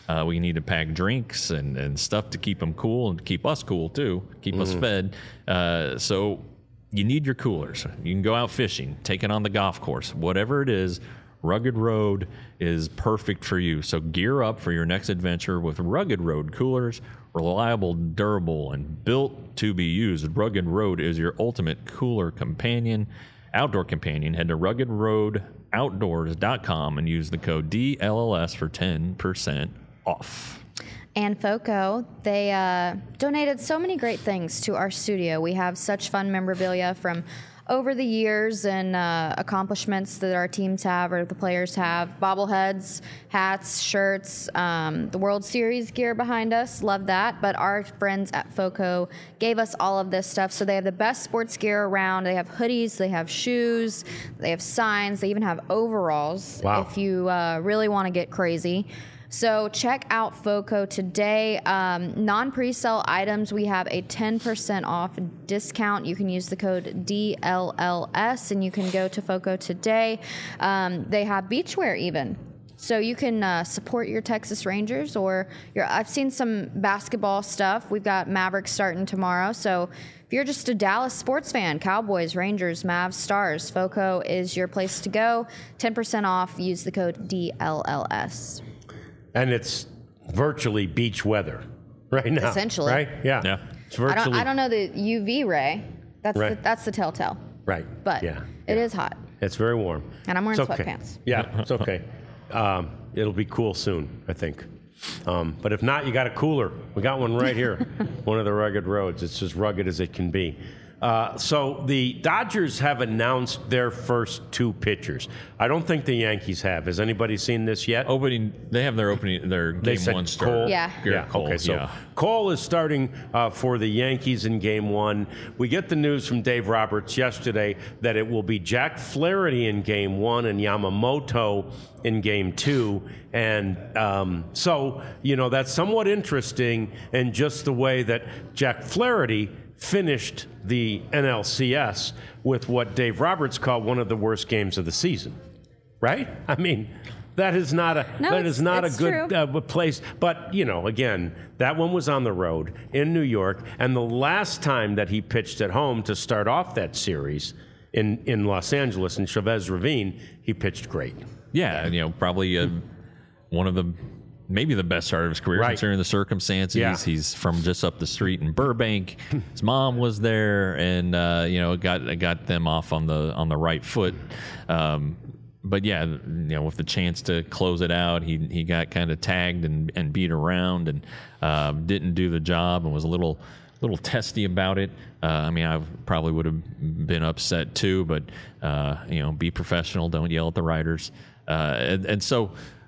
[SPEAKER 3] Uh, we need to pack drinks and, and stuff to keep them cool and keep us cool too, keep mm-hmm. us fed. Uh, so you need your coolers. You can go out fishing, take it on the golf course, whatever it is. Rugged Road is perfect for you. So gear up for your next adventure with Rugged Road coolers. Reliable, durable, and built to be used. Rugged Road is your ultimate cooler companion, outdoor companion. Head to rugged road outdoors dot com and use the code D L L S for ten percent off.
[SPEAKER 2] And FOCO, they uh, donated so many great things to our studio. We have such fun memorabilia from over the years and uh, accomplishments that our teams have or the players have. Bobbleheads, hats, shirts, um, the World Series gear behind us. Love that. But our friends at FOCO gave us all of this stuff. So they have the best sports gear around. They have hoodies, they have shoes, they have signs, they even have overalls.
[SPEAKER 1] Wow.
[SPEAKER 2] If you uh, really want to get crazy. So check out FOCO today. Um, non-pre-sale items, we have a ten percent off discount. You can use the code D L L S and you can go to FOCO today. Um, they have beachwear even. So you can uh, support your Texas Rangers or your, I've seen some basketball stuff. We've got Mavericks starting tomorrow. So if you're just a Dallas sports fan, Cowboys, Rangers, Mavs, Stars, FOCO is your place to go. ten percent off. Use the code D L L S.
[SPEAKER 1] And it's virtually beach weather right now.
[SPEAKER 2] Essentially.
[SPEAKER 1] Right? Yeah.
[SPEAKER 3] Yeah.
[SPEAKER 1] It's virtually.
[SPEAKER 2] I don't, I don't know the U V ray. That's
[SPEAKER 1] Right.
[SPEAKER 2] the, that's the telltale.
[SPEAKER 1] Right.
[SPEAKER 2] But
[SPEAKER 1] yeah.
[SPEAKER 2] it
[SPEAKER 1] yeah.
[SPEAKER 2] is hot.
[SPEAKER 1] It's very warm.
[SPEAKER 2] And I'm wearing
[SPEAKER 1] It's okay.
[SPEAKER 2] sweatpants.
[SPEAKER 1] Yeah, it's okay. Um, it'll be cool soon, I think. Um, but if not, you got a cooler. We got one right here. One of the Rugged Roads. It's as rugged as it can be. Uh, so the Dodgers have announced their first two pitchers. I don't think the Yankees have. Has anybody seen this yet?
[SPEAKER 3] Opening, they have their opening, their
[SPEAKER 1] They
[SPEAKER 3] game
[SPEAKER 1] said
[SPEAKER 3] one start.
[SPEAKER 1] Cole.
[SPEAKER 2] Yeah.
[SPEAKER 3] Garrett
[SPEAKER 1] Yeah.
[SPEAKER 3] Cole,
[SPEAKER 1] Okay. So
[SPEAKER 3] yeah.
[SPEAKER 1] Cole is starting uh, for the Yankees in Game One. We get the news from Dave Roberts yesterday that it will be Jack Flaherty in Game One and Yamamoto in Game Two, and um, so you know that's somewhat interesting in just the way that Jack Flaherty finished the N L C S with what Dave Roberts called one of the worst games of the season. Right? I mean, that is not a
[SPEAKER 2] No,
[SPEAKER 1] that
[SPEAKER 2] it's-
[SPEAKER 1] is not a
[SPEAKER 2] it's
[SPEAKER 1] good
[SPEAKER 2] true.
[SPEAKER 1] uh, place. But you know, again, that one was on the road in New York, and the last time that he pitched at home to start off that series in in Los Angeles in Chavez Ravine, he pitched great.
[SPEAKER 3] Yeah, you know, probably uh, one of the maybe the best start of his career
[SPEAKER 1] Right.
[SPEAKER 3] considering the circumstances.
[SPEAKER 1] Yeah.
[SPEAKER 3] He's from just up the street in Burbank. His mom was there, and uh, you know, got got them off on the on the right foot. Um, but yeah, you know, with the chance to close it out, he he got kind of tagged and, and beat around, and um, didn't do the job, and was a little little testy about it. Uh, I mean, I probably would have been upset too, but uh, you know, be professional. Don't yell at the writers. Uh, and, and so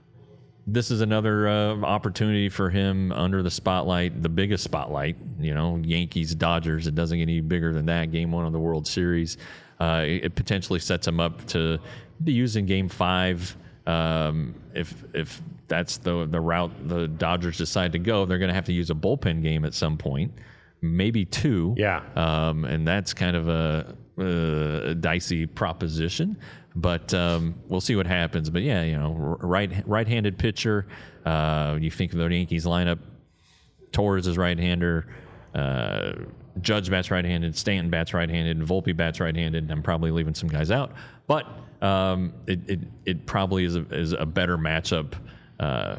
[SPEAKER 3] this is another uh, opportunity for him under the spotlight, the biggest spotlight, you know, Yankees, Dodgers. It doesn't get any bigger than that. Game one of the World Series. Uh, it, it potentially sets him up to be used in Game five. Um, if if that's the the route the Dodgers decide to go, they're going to have to use a bullpen game at some point, maybe two.
[SPEAKER 1] Yeah.
[SPEAKER 3] Um, and that's kind of a, a dicey proposition. But um, we'll see what happens. But yeah, you know, right right-handed pitcher. Uh, you think of the Yankees lineup: Torres is right-hander, uh, Judge bats right-handed, Stanton bats right-handed, and Volpe bats right-handed. I'm probably leaving some guys out, but um, it, it it probably is a, is a better matchup uh,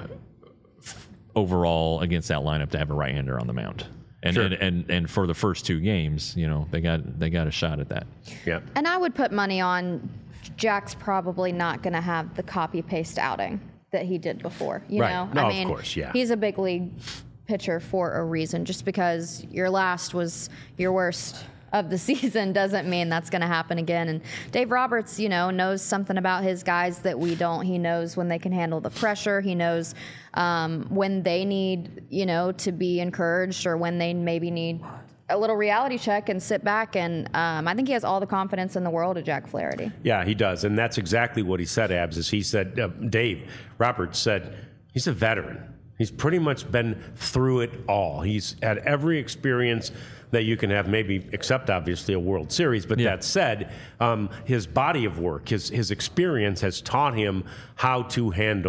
[SPEAKER 3] f- overall against that lineup to have a right-hander on the mound. And,
[SPEAKER 1] Sure.
[SPEAKER 3] and and and for the first two games, you know, they got they got a shot at that.
[SPEAKER 1] Yeah.
[SPEAKER 2] And I would put money on Jack's probably not going to have the copy paste outing that he did before. You
[SPEAKER 1] Right.
[SPEAKER 2] know,
[SPEAKER 1] No,
[SPEAKER 2] I
[SPEAKER 1] of
[SPEAKER 2] mean,
[SPEAKER 1] course, yeah.
[SPEAKER 2] he's a big league pitcher for a reason. Just because your last was your worst of the season doesn't mean that's going to happen again. And Dave Roberts, you know, knows something about his guys that we don't. He knows when they can handle the pressure. He knows um, when they need, you know, to be encouraged or when they maybe need a little reality check and sit back. And um, I think he has all the confidence in the world of Jack Flaherty.
[SPEAKER 1] Yeah, he does, and that's exactly what he said. Abs is he said uh, Dave Roberts said he's a veteran. He's pretty much been through it all. He's had every experience that you can have, maybe except obviously a World Series. But
[SPEAKER 3] Yeah.
[SPEAKER 1] that said, um, his body of work, his his experience has taught him how to handle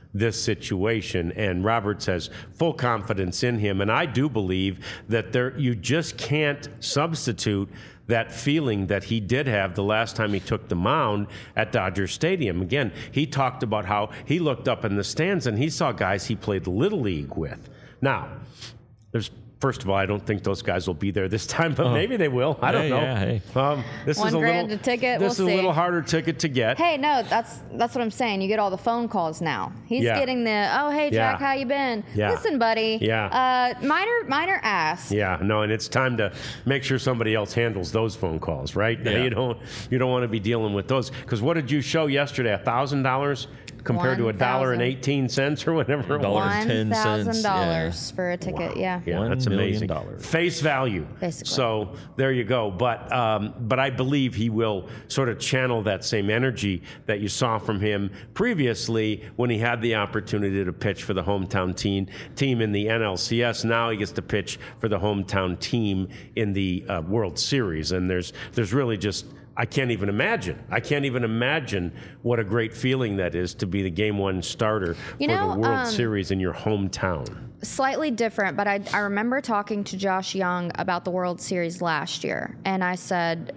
[SPEAKER 1] this situation, and Roberts has full confidence in him. And I do believe that there you just can't substitute that feeling that he did have the last time he took the mound at Dodger Stadium. Again, he talked about how he looked up in the stands and he saw guys he played Little League with. Now, there's First of all, I don't think those guys will be there this time, but oh. maybe they will. I don't
[SPEAKER 3] hey,
[SPEAKER 1] know.
[SPEAKER 3] Yeah, hey.
[SPEAKER 1] um, this
[SPEAKER 2] One
[SPEAKER 1] is a
[SPEAKER 2] grand
[SPEAKER 1] little
[SPEAKER 2] a ticket.
[SPEAKER 1] This
[SPEAKER 2] we'll
[SPEAKER 1] is
[SPEAKER 2] see.
[SPEAKER 1] a little harder ticket to get.
[SPEAKER 2] Hey, no, that's that's what I'm saying. You get all the phone calls now. He's
[SPEAKER 1] Yeah.
[SPEAKER 2] getting the, oh, hey, Jack,
[SPEAKER 1] Yeah.
[SPEAKER 2] how you been?
[SPEAKER 1] Yeah.
[SPEAKER 2] Listen, buddy.
[SPEAKER 1] Yeah.
[SPEAKER 2] Uh, minor, minor ask.
[SPEAKER 1] Yeah, no, and it's time to make sure somebody else handles those phone calls, right?
[SPEAKER 3] Yeah.
[SPEAKER 1] You don't you don't want to be dealing with those because what did you show yesterday? A thousand dollars compared to a dollar and eighteen cents or whatever it was.
[SPEAKER 3] Dollar and ten
[SPEAKER 2] One
[SPEAKER 3] cents,
[SPEAKER 2] thousand dollars
[SPEAKER 3] yeah.
[SPEAKER 2] for a ticket. Yeah.
[SPEAKER 1] Yeah,
[SPEAKER 3] One
[SPEAKER 1] that's
[SPEAKER 3] million
[SPEAKER 1] amazing.
[SPEAKER 3] dollars.
[SPEAKER 1] Face value.
[SPEAKER 2] Basically.
[SPEAKER 1] So there you go. But um, but I believe he will sort of channel that same energy that you saw from him previously when he had the opportunity to pitch for the hometown team team in the N L C S. Now he gets to pitch for the hometown team in the uh, World Series, and there's there's really just. I can't even imagine. I can't even imagine what a great feeling that is to be the game one starter
[SPEAKER 2] You
[SPEAKER 1] for
[SPEAKER 2] know,
[SPEAKER 1] the World
[SPEAKER 2] um,
[SPEAKER 1] Series in your hometown.
[SPEAKER 2] Slightly different, but I, I remember talking to Josh Young about the World Series last year, and I said,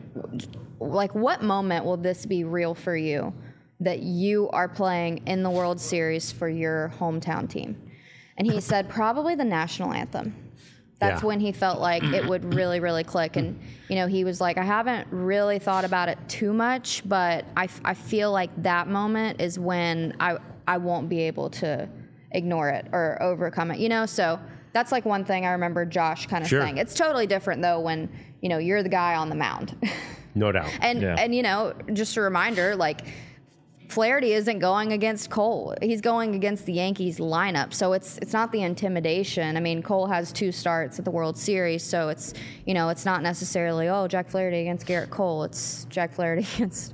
[SPEAKER 2] like, what moment will this be real for you that you are playing in the World Series for your hometown team? And he said, probably the national anthem. That's
[SPEAKER 1] Yeah.
[SPEAKER 2] when he felt like it would really, really click. And, you know, he was like, I haven't really thought about it too much, but I, f- I feel like that moment is when I, I won't be able to ignore it or overcome it, you know? So that's like one thing I remember Josh kind of
[SPEAKER 1] Sure.
[SPEAKER 2] saying. It's totally different, though, when, you know, you're the guy on the mound.
[SPEAKER 1] No doubt.
[SPEAKER 2] and,
[SPEAKER 3] Yeah.
[SPEAKER 2] and, you know, just a reminder, like, Flaherty isn't going against Cole. He's going against the Yankees lineup. So it's it's not the intimidation. I mean, Cole has two starts at the World Series, so it's, you know, it's not necessarily, oh, Jack Flaherty against Garrett Cole. It's Jack Flaherty against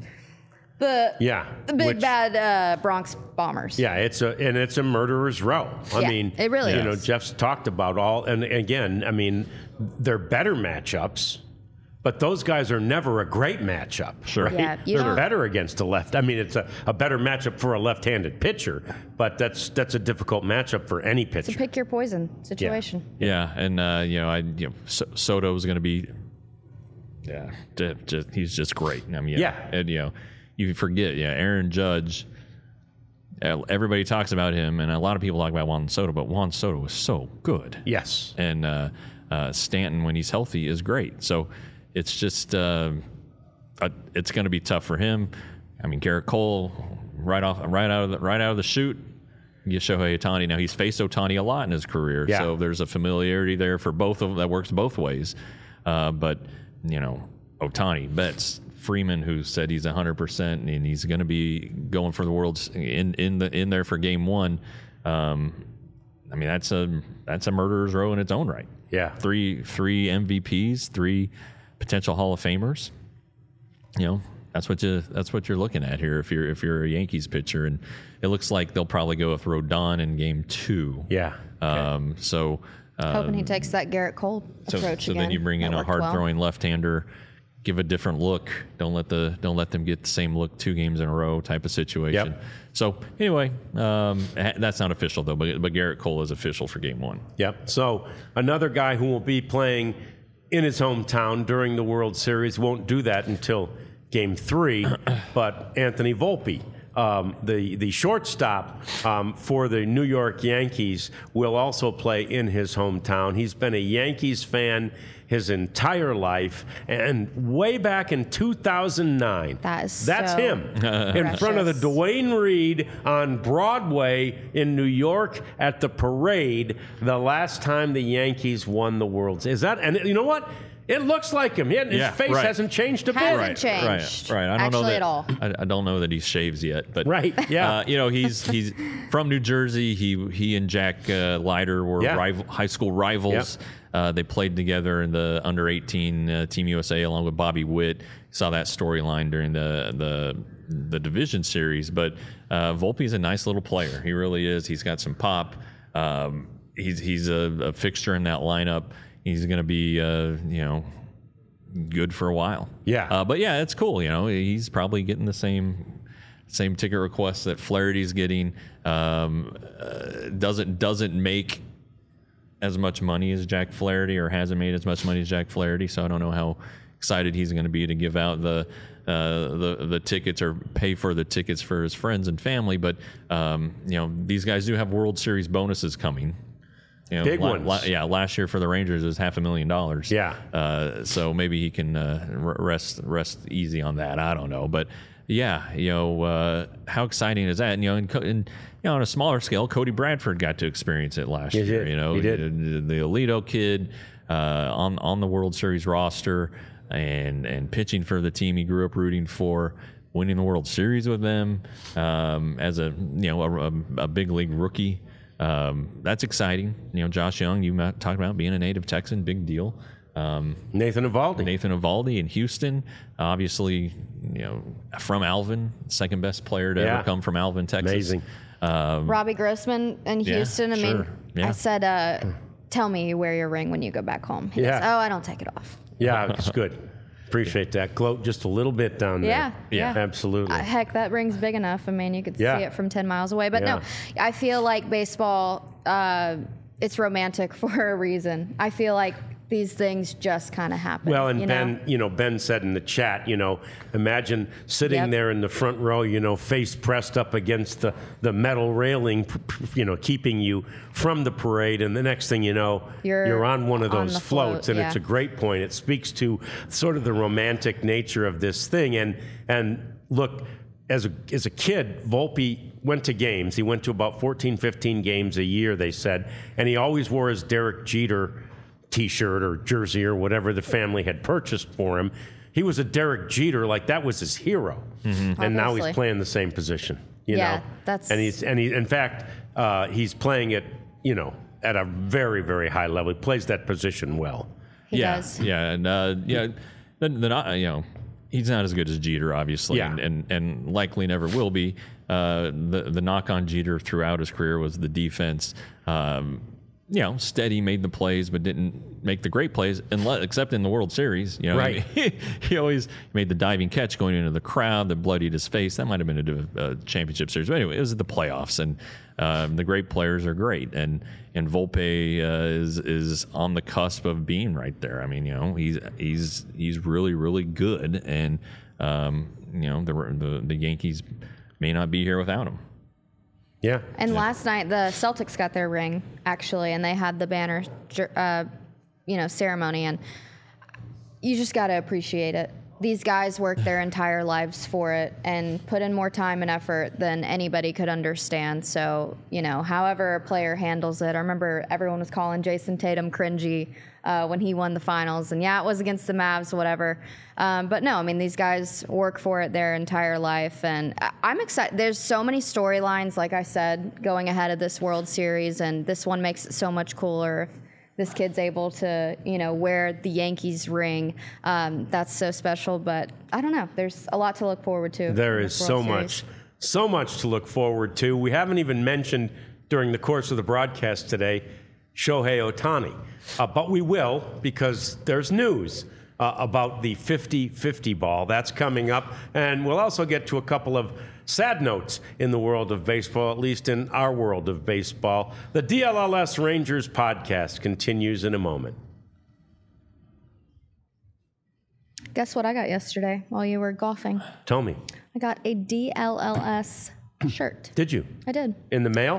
[SPEAKER 2] the
[SPEAKER 1] Yeah,
[SPEAKER 2] the big
[SPEAKER 1] which-
[SPEAKER 2] bad uh, Bronx Bombers.
[SPEAKER 1] Yeah, it's a and it's a murderer's row. I
[SPEAKER 2] Yeah,
[SPEAKER 1] mean,
[SPEAKER 2] it really
[SPEAKER 1] you
[SPEAKER 2] is.
[SPEAKER 1] know, Jeff's talked about all, and again, I mean, they're better matchups, but those guys are never a great matchup.
[SPEAKER 3] Sure.
[SPEAKER 1] Right?
[SPEAKER 2] Yeah, you
[SPEAKER 1] they're
[SPEAKER 2] don't-
[SPEAKER 1] better against a left. I mean, it's a, a better matchup for a left-handed pitcher, but that's that's a difficult matchup for any pitcher.
[SPEAKER 2] It's a pick your poison situation.
[SPEAKER 3] Yeah, and uh, you know, I you know, so- Soto's going to be, yeah, ju- just, he's just great. I mean, yeah,
[SPEAKER 1] Yeah.
[SPEAKER 3] and you know, you forget, yeah, Aaron Judge. uh, Everybody talks about him, and a lot of people talk about Juan Soto, but Juan Soto is so good.
[SPEAKER 1] Yes.
[SPEAKER 3] And uh, uh, Stanton, when he's healthy, is great. So it's just, uh, uh, it's going to be tough for him. I mean, Garrett Cole, right off, right out of the, right out of the chute. You Shohei Ohtani. Now he's faced Ohtani a lot in his career,
[SPEAKER 1] Yeah.
[SPEAKER 3] so there's a familiarity there for both of them that works both ways. Uh, but you know, Ohtani, Betts, Freeman, who said he's one hundred percent and he's going to be going for the world's in in the in there for game one. Um, I mean, that's a that's a murderer's row in its own right.
[SPEAKER 1] Yeah.
[SPEAKER 3] Three three M V Ps, three potential Hall of Famers. You know, that's what you that's what you're looking at here if you're if you're a Yankees pitcher, and it looks like they'll probably go with Rodon in game two.
[SPEAKER 1] Yeah.
[SPEAKER 3] Um, so uh,
[SPEAKER 2] Hoping he takes that Garrett Cole
[SPEAKER 3] so,
[SPEAKER 2] approach
[SPEAKER 3] so
[SPEAKER 2] again.
[SPEAKER 3] then you bring in
[SPEAKER 2] That
[SPEAKER 3] a
[SPEAKER 2] worked well.
[SPEAKER 3] hard throwing left-hander, give a different look. Don't let the don't let them get the same look two games in a row type of situation.
[SPEAKER 1] Yep.
[SPEAKER 3] So anyway, um, ha- that's not official though, but but Garrett Cole is official for game one.
[SPEAKER 1] Yep. So another guy who will be playing in his hometown during the World Series won't do that until Game Three, but Anthony Volpe, um, the the shortstop um, for the New York Yankees, will also play in his hometown. He's been a Yankees fan his entire life, and way back in two thousand nine,
[SPEAKER 2] That is
[SPEAKER 1] that's
[SPEAKER 2] so
[SPEAKER 1] him in front of the
[SPEAKER 2] precious.
[SPEAKER 1] Duane Reade on Broadway in New York at the parade the last time the Yankees won the World Series. Is that, and you know what? It looks like him. He- His
[SPEAKER 3] Yeah,
[SPEAKER 1] face
[SPEAKER 3] right.
[SPEAKER 1] hasn't changed a bit.
[SPEAKER 2] Hasn't
[SPEAKER 3] Right,
[SPEAKER 2] changed,
[SPEAKER 3] right, right. I don't
[SPEAKER 2] actually
[SPEAKER 3] know that,
[SPEAKER 2] at all.
[SPEAKER 3] I, I don't know that he shaves yet, but
[SPEAKER 1] Right, yeah.
[SPEAKER 3] Uh, you know, he's he's from New Jersey. He he and Jack uh, Leiter were
[SPEAKER 1] Yeah.
[SPEAKER 3] rival, high school rivals. Uh, they played together in the under eighteen uh, Team U S A along with Bobby Witt. Saw that storyline during the the the division series. But uh, Volpe's a nice little player. He really is. He's got some pop. Um, he's he's a, a fixture in that lineup. He's going to be uh, you know. good for a while.
[SPEAKER 1] Yeah.
[SPEAKER 3] Uh, but yeah, it's cool. You know, he's probably getting the same same ticket requests that Flaherty's getting. Um, uh, doesn't doesn't make as much money as Jack Flaherty, or hasn't made as much money as Jack Flaherty. So I don't know how excited he's going to be to give out the uh, the the tickets or pay for the tickets for his friends and family. But um, you know, these guys do have World Series bonuses coming. You know,
[SPEAKER 1] Big
[SPEAKER 3] la-
[SPEAKER 1] ones.
[SPEAKER 3] la- yeah, last year for the Rangers is half a million dollars.
[SPEAKER 1] Yeah.
[SPEAKER 3] Uh, so maybe he can uh, r- rest rest easy on that. I don't know, but yeah, you know, uh, how exciting is that? And, you know, and, Co- and you know, on a smaller scale, Cody Bradford got to experience it last
[SPEAKER 1] He
[SPEAKER 3] year.
[SPEAKER 1] did.
[SPEAKER 3] You know,
[SPEAKER 1] He did.
[SPEAKER 3] The, the Alito kid uh, on on the World Series roster and and pitching for the team he grew up rooting for. Winning the World Series with them um, as a you know a, a big league rookie. Um, that's exciting. You know, Josh Young, you talked about being a native Texan, big deal. Um,
[SPEAKER 1] Nathan Eovaldi.
[SPEAKER 3] Nathan Eovaldi in Houston, obviously, you know, from Alvin, second best player to
[SPEAKER 1] Yeah.
[SPEAKER 3] ever come from Alvin, Texas.
[SPEAKER 1] Amazing.
[SPEAKER 3] Um,
[SPEAKER 2] Robbie Grossman in
[SPEAKER 3] Yeah,
[SPEAKER 2] Houston. I mean,
[SPEAKER 3] sure. Yeah.
[SPEAKER 2] I said, uh, "Tell me you wear your ring when you go back home." He
[SPEAKER 1] Yeah.
[SPEAKER 2] goes, "Oh, I don't take it off."
[SPEAKER 1] Yeah, it's good. Appreciate that. Gloat just a little bit down there.
[SPEAKER 2] Yeah,
[SPEAKER 3] Yeah.
[SPEAKER 2] yeah.
[SPEAKER 1] Absolutely.
[SPEAKER 2] Uh, heck, that ring's big enough. I mean, you could
[SPEAKER 1] Yeah.
[SPEAKER 2] see it from ten miles away. But
[SPEAKER 1] Yeah.
[SPEAKER 2] no, I feel like baseball, uh, it's romantic for a reason. I feel like these things just kind of happen.
[SPEAKER 1] Well, and
[SPEAKER 2] you
[SPEAKER 1] Ben,
[SPEAKER 2] know?
[SPEAKER 1] you know, Ben said in the chat, you know, imagine sitting
[SPEAKER 2] Yep.
[SPEAKER 1] there in the front row, you know, face pressed up against the, the metal railing, p- p- you know, keeping you from the parade. And the next thing you know,
[SPEAKER 2] You're
[SPEAKER 1] on one of
[SPEAKER 2] on
[SPEAKER 1] those
[SPEAKER 2] the float,
[SPEAKER 1] floats. And it's a
[SPEAKER 2] yeah.
[SPEAKER 1] great point. It speaks to sort of the romantic nature of this thing. And, and look, as a, as a kid, Volpe went to games. He went to about fourteen, fifteen games a year, they said. And he always wore his Derek Jeter T-shirt or jersey or whatever the family had purchased for him. He was a Derek Jeter, like that was his hero, and now he's
[SPEAKER 2] Obviously.
[SPEAKER 1] playing the same position. You
[SPEAKER 2] Yeah,
[SPEAKER 1] know,
[SPEAKER 2] that's-
[SPEAKER 1] and he's and he in fact uh, he's playing it, you know, at a very very high level. He plays that position well.
[SPEAKER 2] He
[SPEAKER 3] yeah,
[SPEAKER 2] does.
[SPEAKER 3] yeah, and uh, yeah, then, then I, you know, he's not as good as Jeter, obviously,
[SPEAKER 1] Yeah.
[SPEAKER 3] and, and and likely never will be. Uh, the the knock on Jeter throughout his career was the defense. Um, you know, steady, made the plays, but didn't make the great plays, unless, except in the World Series. You know,
[SPEAKER 1] Right.
[SPEAKER 3] he, he always made the diving catch going into the crowd that bloodied his face. That might have been a, a championship series, but anyway, it was the playoffs, and um, the great players are great, and and Volpe uh, is is on the cusp of being right there. I mean, you know, he's he's he's really really good, and um, you know, the the the Yankees may not be here without him.
[SPEAKER 1] Yeah,
[SPEAKER 2] And last night the Celtics got their ring actually, and they had the banner, uh, you know, ceremony, and you just got to appreciate it. These guys worked their entire lives for it and put in more time and effort than anybody could understand. So, you know, however a player handles it. I remember everyone was calling Jason Tatum cringy uh, when he won the finals. And yeah, it was against the Mavs, whatever. Um, but no, I mean, these guys work for it their entire life. And I- I'm excited. There's so many storylines, like I said, going ahead of this World Series. And this one makes it so much cooler. If this kid's able to, you know, wear the Yankees ring. Um, that's so special, but I don't know. There's a lot to look forward to.
[SPEAKER 1] there
[SPEAKER 2] in
[SPEAKER 1] is
[SPEAKER 2] this
[SPEAKER 1] so
[SPEAKER 2] World
[SPEAKER 1] much,
[SPEAKER 2] Series.
[SPEAKER 1] so much to look forward to. We haven't even mentioned during the course of the broadcast today Shohei Ohtani, uh, but we will because there's news uh, about the fifty fifty ball. That's coming up, and we'll also get to a couple of sad notes in the world of baseball, at least in our world of baseball. The D L L S Rangers podcast continues in a moment.
[SPEAKER 2] Guess what I got yesterday while you were golfing?
[SPEAKER 1] Tell me,
[SPEAKER 2] I got a D L L S shirt.
[SPEAKER 1] did you?
[SPEAKER 2] I did.
[SPEAKER 1] In the mail?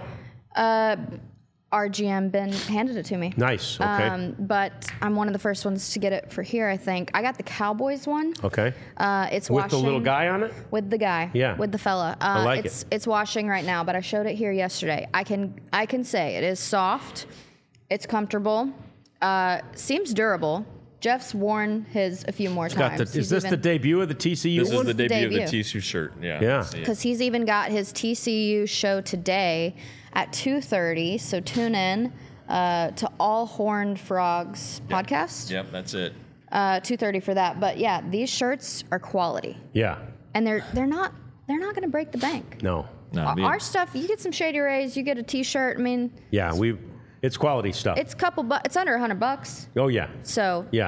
[SPEAKER 2] R G M Ben handed it to me.
[SPEAKER 1] Nice, okay.
[SPEAKER 2] Um, but I'm one of the first ones to get it for here, I think. I got the Cowboys one.
[SPEAKER 1] Okay.
[SPEAKER 2] Uh, it's
[SPEAKER 1] With
[SPEAKER 2] washing.
[SPEAKER 1] the little guy on it?
[SPEAKER 2] With the guy.
[SPEAKER 1] Yeah.
[SPEAKER 2] With the fella. Uh,
[SPEAKER 1] like
[SPEAKER 2] it's,
[SPEAKER 1] it.
[SPEAKER 2] It's washing right now, but I showed it here yesterday. I can I can say it is soft. It's comfortable. Uh, seems durable. Jeff's worn his a few more
[SPEAKER 1] Got
[SPEAKER 2] times.
[SPEAKER 1] the, is this the debut of the T C U
[SPEAKER 3] This
[SPEAKER 1] one?
[SPEAKER 3] is the
[SPEAKER 2] the
[SPEAKER 3] debut, of
[SPEAKER 2] debut?
[SPEAKER 3] the T C U shirt. Yeah.
[SPEAKER 1] Yeah.
[SPEAKER 3] See it.
[SPEAKER 2] Because he's even got his T C U show today at two thirty. So tune in uh, to All Horned Frogs podcast.
[SPEAKER 3] Yep, that's it.
[SPEAKER 2] Uh, two thirty for that. But yeah, these shirts are quality,
[SPEAKER 1] Yeah.
[SPEAKER 2] and they're they're not they're not going to break the bank.
[SPEAKER 1] No.
[SPEAKER 3] No,
[SPEAKER 2] Our-
[SPEAKER 3] the-
[SPEAKER 2] Our stuff, you get some Shady Rays, you get a T-shirt. I mean,
[SPEAKER 1] Yeah, we. It's quality stuff.
[SPEAKER 2] it's couple, bu- it's under a hundred bucks.
[SPEAKER 1] oh yeah,
[SPEAKER 2] So
[SPEAKER 1] yeah.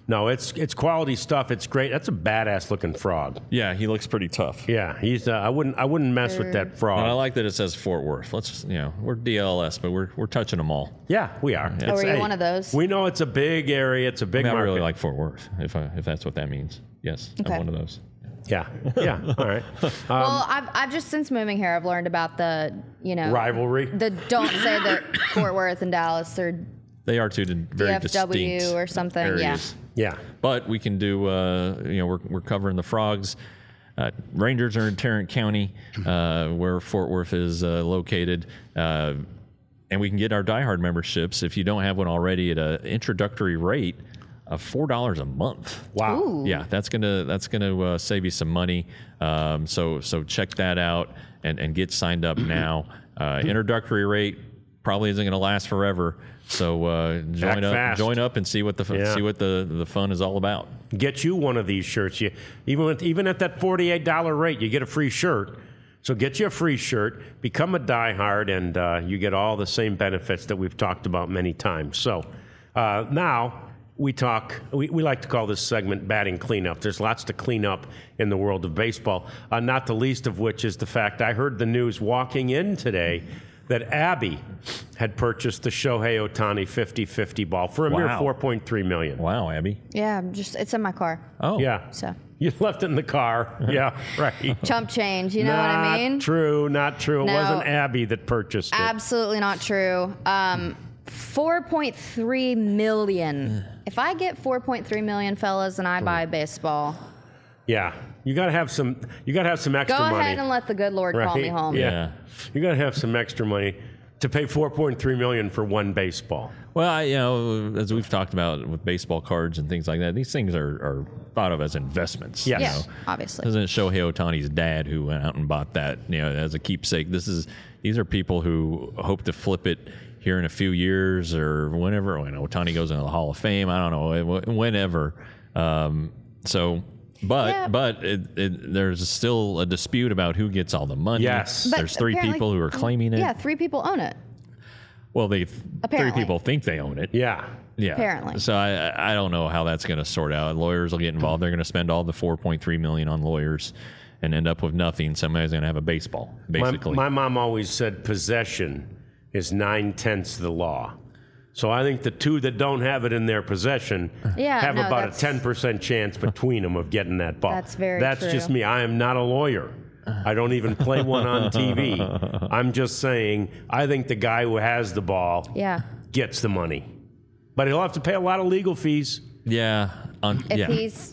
[SPEAKER 1] no, it's it's quality stuff. It's great. That's a badass looking frog.
[SPEAKER 3] Yeah, he looks pretty tough.
[SPEAKER 1] Yeah, he's. Uh, I wouldn't. I wouldn't mess with that frog.
[SPEAKER 3] And I like that it says Fort Worth. Let's, you know, we're D L S, but we're we're touching them all.
[SPEAKER 1] Yeah, we are.
[SPEAKER 2] Oh,
[SPEAKER 1] It's-
[SPEAKER 2] were you
[SPEAKER 1] hey,
[SPEAKER 2] one of those?
[SPEAKER 1] We know it's a big area. It's a
[SPEAKER 3] I,
[SPEAKER 1] big
[SPEAKER 3] mean, I
[SPEAKER 1] market.
[SPEAKER 3] really like Fort Worth, if I, if that's what that means. Yes,
[SPEAKER 2] Okay.
[SPEAKER 3] I'm one of those.
[SPEAKER 1] Yeah, yeah. All right. Um,
[SPEAKER 2] well, I've, I've just since moving here, I've learned about the, you know,
[SPEAKER 1] rivalry.
[SPEAKER 2] the don't say that Fort Worth and Dallas are
[SPEAKER 3] They are two di- very
[SPEAKER 2] D F W
[SPEAKER 3] distinct
[SPEAKER 2] or something, yeah.
[SPEAKER 3] areas.
[SPEAKER 1] Yeah.
[SPEAKER 3] But we can do, uh, you know, we're, we're covering the Frogs. Uh, Rangers are in Tarrant County, uh, where Fort Worth is uh, located. Uh, and we can get our diehard memberships, if you don't have one already, at an introductory rate of four dollars a month.
[SPEAKER 1] Wow.
[SPEAKER 2] Ooh.
[SPEAKER 3] Yeah, that's gonna that's gonna uh, save you some money. Um, so so check that out and, and get signed up now. Uh, introductory rate probably isn't gonna last forever. So uh, join
[SPEAKER 1] Act
[SPEAKER 3] up,
[SPEAKER 1] fast.
[SPEAKER 3] join up, and see what the fu-
[SPEAKER 1] Yeah.
[SPEAKER 3] see what the, the fun is all about.
[SPEAKER 1] Get you one of these shirts. You even with, even at that forty-eight dollars rate, you get a free shirt. So get you a free shirt, become a diehard, and uh, you get all the same benefits that we've talked about many times. So uh, now we talk. We, we like to call this segment batting cleanup. There's lots to clean up in the world of baseball. Uh, not the least of which is the fact I heard the news walking in today that Abby had purchased the Shohei Ohtani fifty-fifty ball for a mere
[SPEAKER 3] Wow.
[SPEAKER 1] four point three million dollars.
[SPEAKER 3] Wow, Abby.
[SPEAKER 2] yeah, just it's in my car.
[SPEAKER 3] Oh,
[SPEAKER 1] Yeah.
[SPEAKER 2] So
[SPEAKER 1] You left it in the car. Yeah, right.
[SPEAKER 2] chump change, you know what
[SPEAKER 1] not
[SPEAKER 2] I mean?
[SPEAKER 1] true, not true. It
[SPEAKER 2] No.
[SPEAKER 1] wasn't Abby that purchased it.
[SPEAKER 2] Absolutely not true. Um, four point three million. If I get four point three million, fellas, and I buy baseball,
[SPEAKER 1] Yeah. You gotta have some you gotta have some
[SPEAKER 2] go
[SPEAKER 1] extra money.
[SPEAKER 2] ahead and let the good Lord call
[SPEAKER 1] right?
[SPEAKER 2] me home.
[SPEAKER 1] Yeah.
[SPEAKER 3] Yeah.
[SPEAKER 1] You gotta have some extra money to pay four point three million dollars for one baseball.
[SPEAKER 3] Well, I, you know, as we've talked about with baseball cards and things like that, these things are, are thought of as investments.
[SPEAKER 1] Yes.
[SPEAKER 3] You
[SPEAKER 2] Yeah,
[SPEAKER 3] know?
[SPEAKER 2] obviously.
[SPEAKER 3] Isn't it Shohei Ohtani's dad who went out and bought that, you know, as a keepsake? This is these are people who hope to flip it here in a few years or whenever. When Ohtani goes into the Hall of Fame, I don't know, whenever. Um, so, but
[SPEAKER 2] Yeah.
[SPEAKER 3] but it, it, there's still a dispute about who gets all the money.
[SPEAKER 1] Yes.
[SPEAKER 2] But
[SPEAKER 3] There's three
[SPEAKER 2] apparently-
[SPEAKER 3] people who are claiming it.
[SPEAKER 2] Yeah, three people own it.
[SPEAKER 3] Well, they three
[SPEAKER 2] Apparently.
[SPEAKER 3] people think they own it.
[SPEAKER 1] Yeah.
[SPEAKER 3] Yeah.
[SPEAKER 2] Apparently.
[SPEAKER 3] So I I don't know how that's going to sort out. Lawyers will get involved. They're going to spend all the four point three million on lawyers and end up with nothing. Somebody's going to have a baseball,
[SPEAKER 1] My,
[SPEAKER 3] basically.
[SPEAKER 1] my mom always said possession is nine tenths of the law. So I think the two that don't have it in their possession
[SPEAKER 2] Yeah,
[SPEAKER 1] have
[SPEAKER 2] no,
[SPEAKER 1] about a
[SPEAKER 2] that's-
[SPEAKER 1] ten percent chance between them of getting that ball.
[SPEAKER 2] That's very
[SPEAKER 1] That's
[SPEAKER 2] true.
[SPEAKER 1] just me. I am not a lawyer. I don't even play one on T V. I'm just saying I think the guy who has the ball
[SPEAKER 2] Yeah.
[SPEAKER 1] gets the money. But he'll have to pay a lot of legal fees.
[SPEAKER 3] yeah. On,
[SPEAKER 2] If
[SPEAKER 3] yeah.
[SPEAKER 2] he's,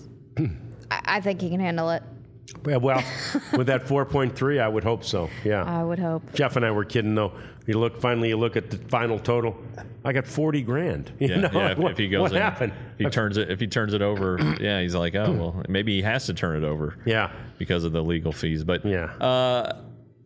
[SPEAKER 2] I, I think he can handle it.
[SPEAKER 1] Yeah, well, with that four point three, I would hope so. Yeah.
[SPEAKER 2] I would hope.
[SPEAKER 1] Jeff and I were kidding though. You look finally. You look at the final total. I got forty grand. You
[SPEAKER 3] Yeah,
[SPEAKER 1] know,
[SPEAKER 3] yeah, if,
[SPEAKER 1] what,
[SPEAKER 3] if he goes
[SPEAKER 1] what
[SPEAKER 3] in,
[SPEAKER 1] happened?
[SPEAKER 3] If he turns it, if he turns it over, yeah, he's like, oh well, maybe he has to turn it over.
[SPEAKER 1] Yeah.
[SPEAKER 3] because of the legal fees. But
[SPEAKER 1] Yeah.
[SPEAKER 3] uh,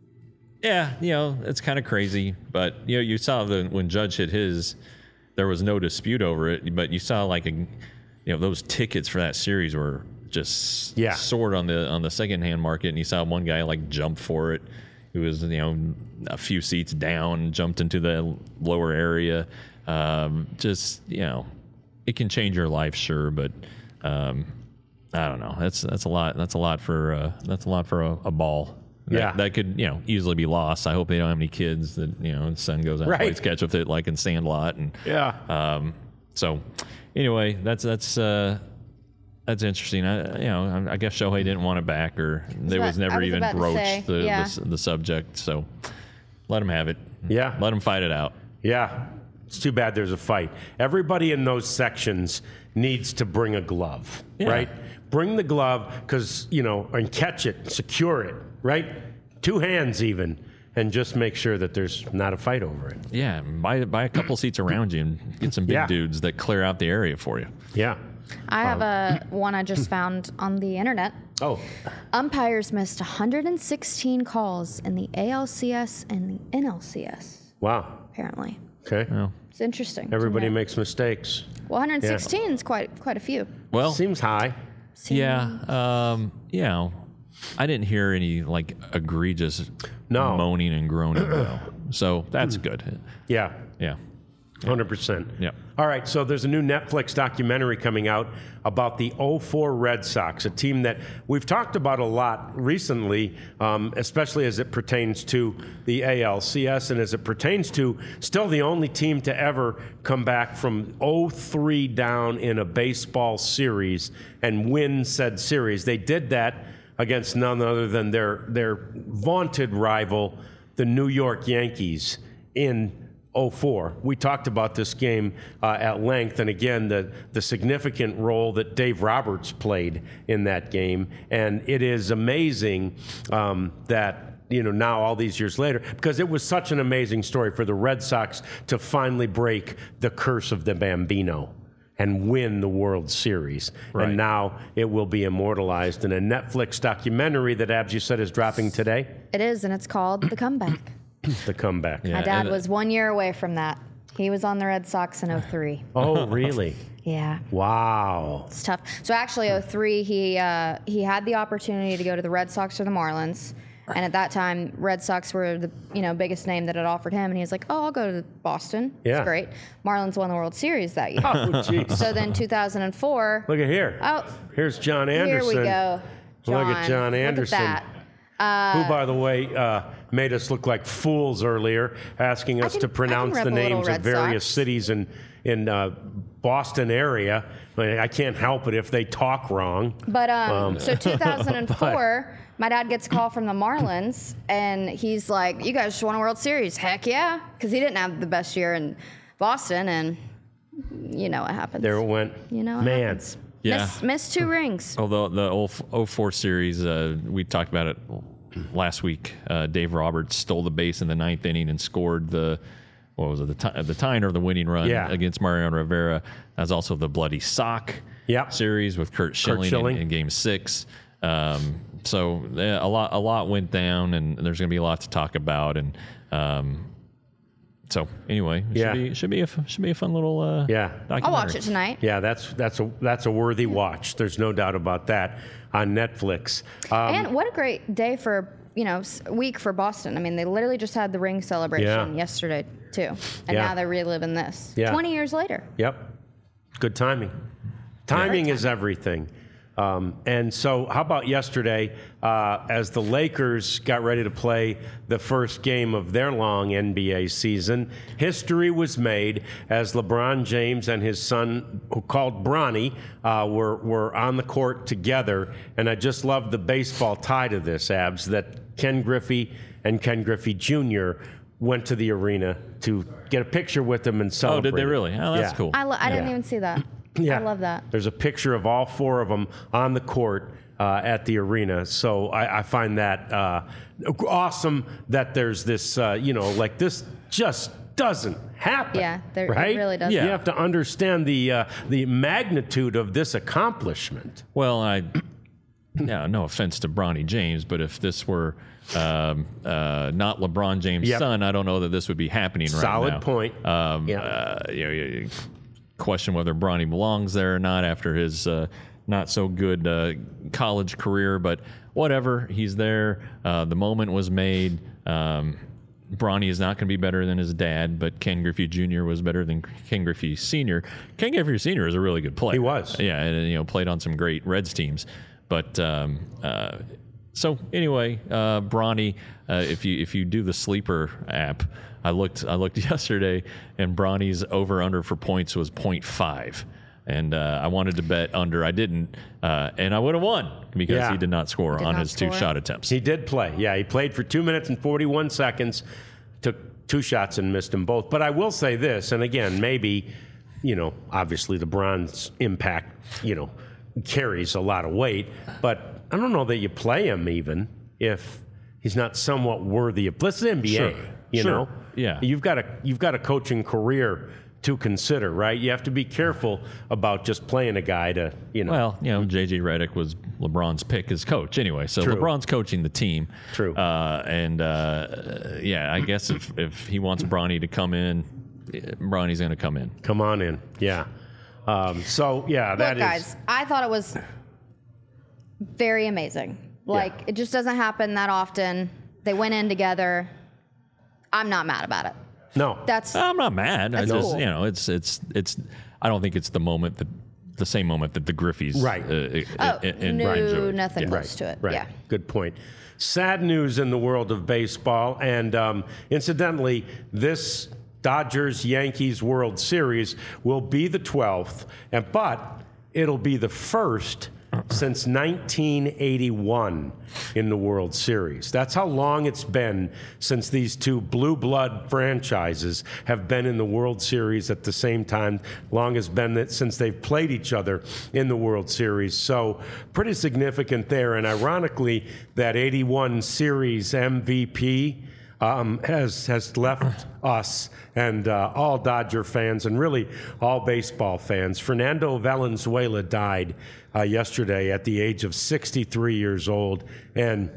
[SPEAKER 3] yeah, you know, it's kind of crazy. But you know, you saw the when Judge hit his, there was no dispute over it. But you saw like a, you know, those tickets for that series were just
[SPEAKER 1] Yeah.
[SPEAKER 3] soared on the on the second hand market, and you saw one guy like jump for it. Who was, you know, a few seats down, jumped into the lower area. Um, just, you know, it can change your life, sure, but um, I don't know. That's that's a lot. That's a lot for uh, that's a lot for a, a ball. That,
[SPEAKER 1] Yeah.
[SPEAKER 3] that could, you know, easily be lost. I hope they don't have any kids that, you know, the son goes out
[SPEAKER 1] Right.
[SPEAKER 3] and plays catch with it like in Sandlot, and
[SPEAKER 1] Yeah.
[SPEAKER 3] um, so anyway, that's that's uh, that's interesting. I, you know, I, I guess Shohei didn't want it back, or there
[SPEAKER 2] about-
[SPEAKER 3] was never
[SPEAKER 2] I was
[SPEAKER 3] even
[SPEAKER 2] about to
[SPEAKER 3] broached
[SPEAKER 2] say,
[SPEAKER 3] the,
[SPEAKER 2] yeah.
[SPEAKER 3] the the subject. So let him have it.
[SPEAKER 1] Yeah.
[SPEAKER 3] Let him fight it out.
[SPEAKER 1] Yeah. It's too bad there's a fight. Everybody in those sections needs to bring a glove,
[SPEAKER 3] Yeah.
[SPEAKER 1] right? Bring the glove, because, you know, and catch it, secure it, right? Two hands even, and just make sure that there's not a fight over it.
[SPEAKER 3] Yeah, buy buy a couple seats around you and get some big
[SPEAKER 1] Yeah.
[SPEAKER 3] dudes that clear out the area for you.
[SPEAKER 1] Yeah.
[SPEAKER 2] I have a one I just found on the internet.
[SPEAKER 1] Oh,
[SPEAKER 2] Umpires missed one hundred sixteen calls in the A L C S and the N L C S,
[SPEAKER 1] wow.
[SPEAKER 2] apparently.
[SPEAKER 1] Okay.
[SPEAKER 3] Well,
[SPEAKER 2] It's interesting. to
[SPEAKER 1] Everybody
[SPEAKER 2] know.
[SPEAKER 1] makes mistakes.
[SPEAKER 2] Well, one hundred sixteen is quite quite a few.
[SPEAKER 3] well,
[SPEAKER 1] Seems high.
[SPEAKER 3] yeah, um, you know, I didn't hear any like egregious
[SPEAKER 1] No.
[SPEAKER 3] moaning and groaning though, so that's good.
[SPEAKER 1] Yeah.
[SPEAKER 3] Yeah,
[SPEAKER 1] one hundred percent.
[SPEAKER 3] Yep.
[SPEAKER 1] All right, so there's a new Netflix documentary coming out about the oh four Red Sox, a team that we've talked about a lot recently, um, especially as it pertains to the A L C S and as it pertains to still the only team to ever come back from oh three down in a baseball series and win said series. They did that against none other than their, their vaunted rival, the New York Yankees, in oh four. We talked about this game uh, at length, and again, the, the significant role that Dave Roberts played in that game. And it is amazing um, that, you know, now all these years later, because it was such an amazing story for the Red Sox to finally break the curse of the Bambino and win the World Series.
[SPEAKER 3] Right.
[SPEAKER 1] And now it will be immortalized in a Netflix documentary that, Abs, you said is dropping today?
[SPEAKER 2] It is, and it's called The Comeback.
[SPEAKER 1] The Comeback.
[SPEAKER 3] Yeah.
[SPEAKER 2] My dad
[SPEAKER 3] and-
[SPEAKER 2] was one year away from that. He was on the Red Sox in oh three.
[SPEAKER 1] Oh, really?
[SPEAKER 2] Yeah.
[SPEAKER 1] Wow.
[SPEAKER 2] It's tough. So actually, oh three, he uh, he had the opportunity to go to the Red Sox or the Marlins, and at that time, Red Sox were the you know biggest name that had offered him, and he was like, "Oh, I'll go to Boston.
[SPEAKER 1] Yeah.
[SPEAKER 2] It's great." Marlins won the World Series that year.
[SPEAKER 1] Oh, jeez.
[SPEAKER 2] So then, two thousand four.
[SPEAKER 1] Look at here.
[SPEAKER 2] Oh,
[SPEAKER 1] Here's John
[SPEAKER 2] here
[SPEAKER 1] Anderson.
[SPEAKER 2] we go. John.
[SPEAKER 1] Look at John Anderson.
[SPEAKER 2] Look at that.
[SPEAKER 1] who, by the way, uh, made us look like fools earlier, asking us
[SPEAKER 2] can-
[SPEAKER 1] to
[SPEAKER 2] I can
[SPEAKER 1] pronounce the
[SPEAKER 2] rep a little
[SPEAKER 1] names of
[SPEAKER 2] Red
[SPEAKER 1] various
[SPEAKER 2] Sox.
[SPEAKER 1] cities in in uh, Boston area. I I can't help it if they talk wrong.
[SPEAKER 2] But um, so two thousand four, my dad gets a call from the Marlins, and he's like, "You guys just won a World Series." Heck yeah, because he didn't have the best year in Boston, and you know what happens.
[SPEAKER 1] There it went.
[SPEAKER 2] You know what
[SPEAKER 1] Man.
[SPEAKER 2] happens.
[SPEAKER 3] Yeah.
[SPEAKER 2] Miss, missed two rings.
[SPEAKER 3] Although the oh four series, uh, we talked about it last week. Uh, Dave Roberts stole the base in the ninth inning and scored the, what was it, the, tie, the tying or the winning run
[SPEAKER 1] Yeah.
[SPEAKER 3] against Mariano Rivera. That's also the Bloody Sock
[SPEAKER 1] Yep.
[SPEAKER 3] series with Kurt Schilling,
[SPEAKER 1] Schilling.
[SPEAKER 3] In, in Game Six. Um, so yeah, a lot, a lot went down, and there's going to be a lot to talk about. And um, so anyway, it
[SPEAKER 1] Yeah.
[SPEAKER 3] should be should be a f- should be a fun little uh,
[SPEAKER 1] Yeah.
[SPEAKER 3] documentary.
[SPEAKER 2] I'll watch it tonight.
[SPEAKER 1] Yeah, that's that's a that's a worthy watch. There's no doubt about that on Netflix. Um,
[SPEAKER 2] And what a great day for, you know, s- week for Boston. I mean, they literally just had the ring celebration
[SPEAKER 1] Yeah.
[SPEAKER 2] yesterday, too. And
[SPEAKER 1] Yeah.
[SPEAKER 2] now they're reliving this
[SPEAKER 1] Yeah.
[SPEAKER 2] twenty years later.
[SPEAKER 1] Yep. Good timing. Timing is everything. Um, and so, how about yesterday, uh, as the Lakers got ready to play the first game of their long N B A season, history was made as LeBron James and his son, who called Bronny, uh, were, were on the court together. And I just love the baseball tie to this, Abs, that Ken Griffey and Ken Griffey Junior went to the arena to get a picture with him and
[SPEAKER 3] Oh,
[SPEAKER 1] celebrate.
[SPEAKER 3] did they really? Oh, that's
[SPEAKER 1] Yeah.
[SPEAKER 3] cool.
[SPEAKER 2] I, lo- I didn't
[SPEAKER 1] Yeah.
[SPEAKER 2] even see that.
[SPEAKER 1] Yeah.
[SPEAKER 2] I love that.
[SPEAKER 1] There's a picture of all four of them on the court uh, at the arena. So I, I find that uh, awesome that there's this, uh, you know, like this just doesn't happen.
[SPEAKER 2] Yeah, there- it
[SPEAKER 1] right?
[SPEAKER 2] really doesn't.
[SPEAKER 3] Yeah.
[SPEAKER 1] You have to understand the uh, the magnitude of this accomplishment.
[SPEAKER 3] Well, I, yeah, no offense to Bronny James, but if this were um, uh, not LeBron James'
[SPEAKER 1] Yep.
[SPEAKER 3] son, I don't know that this would be happening right
[SPEAKER 1] Solid
[SPEAKER 3] now.
[SPEAKER 1] point.
[SPEAKER 3] Um,
[SPEAKER 1] Yeah.
[SPEAKER 3] uh, you know, you question whether Bronny belongs there or not after his uh, not so good uh, college career, but whatever, he's there. Uh, the moment was made. Um, Bronny is not going to be better than his dad, but Ken Griffey Junior was better than Ken Griffey Senior Ken Griffey Senior is a really good player.
[SPEAKER 1] He was.
[SPEAKER 3] Yeah, and you know, played on some great Reds teams. But um, uh, so anyway, uh, Bronny, uh, if you if you do the sleeper app, I looked I looked yesterday, and Bronny's over under for points was point five. And uh, I wanted to bet under. I didn't, uh, and I would have won because
[SPEAKER 1] Yeah.
[SPEAKER 3] he did not score
[SPEAKER 2] Did
[SPEAKER 3] on
[SPEAKER 2] not
[SPEAKER 3] his two
[SPEAKER 2] score.
[SPEAKER 3] shot attempts.
[SPEAKER 1] He did play. Yeah, he played for two minutes and forty-one seconds, took two shots and missed them both. But I will say this, and again, maybe, you know, obviously LeBron's impact, you know, carries a lot of weight, but I don't know that you play him even if he's not somewhat worthy of. This is N B A,
[SPEAKER 3] Sure.
[SPEAKER 1] you
[SPEAKER 3] Sure.
[SPEAKER 1] know.
[SPEAKER 3] Yeah.
[SPEAKER 1] You've got a you've got a coaching career to consider, right? You have to be careful about just playing a guy to, you know.
[SPEAKER 3] Well, you know, J J Redick was LeBron's pick as coach anyway, so
[SPEAKER 1] True.
[SPEAKER 3] LeBron's coaching the team.
[SPEAKER 1] True.
[SPEAKER 3] Uh, and uh, yeah, I guess if, if he wants Bronny to come in, eh, Bronny's going to come in.
[SPEAKER 1] Come on in, yeah. Um, so yeah, that
[SPEAKER 2] Look,
[SPEAKER 1] is.
[SPEAKER 2] guys, I thought it was very amazing. Like,
[SPEAKER 1] Yeah.
[SPEAKER 2] it just doesn't happen that often. They went in together. I'm not mad about it.
[SPEAKER 1] No.
[SPEAKER 2] That's
[SPEAKER 3] I'm not mad. I
[SPEAKER 2] That's
[SPEAKER 3] just,
[SPEAKER 2] cool.
[SPEAKER 3] you know, it's it's it's. I don't think it's the moment that the same moment that the Griffeys
[SPEAKER 1] Right.
[SPEAKER 3] Uh,
[SPEAKER 2] oh,
[SPEAKER 3] and, and
[SPEAKER 2] no,
[SPEAKER 3] Brian enjoyed.
[SPEAKER 2] nothing
[SPEAKER 3] Yeah.
[SPEAKER 2] close to it.
[SPEAKER 1] Right.
[SPEAKER 2] Yeah.
[SPEAKER 1] Good point. Sad news in the world of baseball. And um, incidentally, this Dodgers Yankees World Series will be the twelfth, and but it'll be the first since nineteen eighty-one in the World Series. That's how long it's been since these two blue blood franchises have been in the World Series at the same time. Long has been that since they've played each other in the World Series. So pretty significant there. And ironically, that eighty-one series M V P Um, has has left us and uh, all Dodger fans and really all baseball fans. Fernando Valenzuela died uh, yesterday at the age of sixty-three years old. And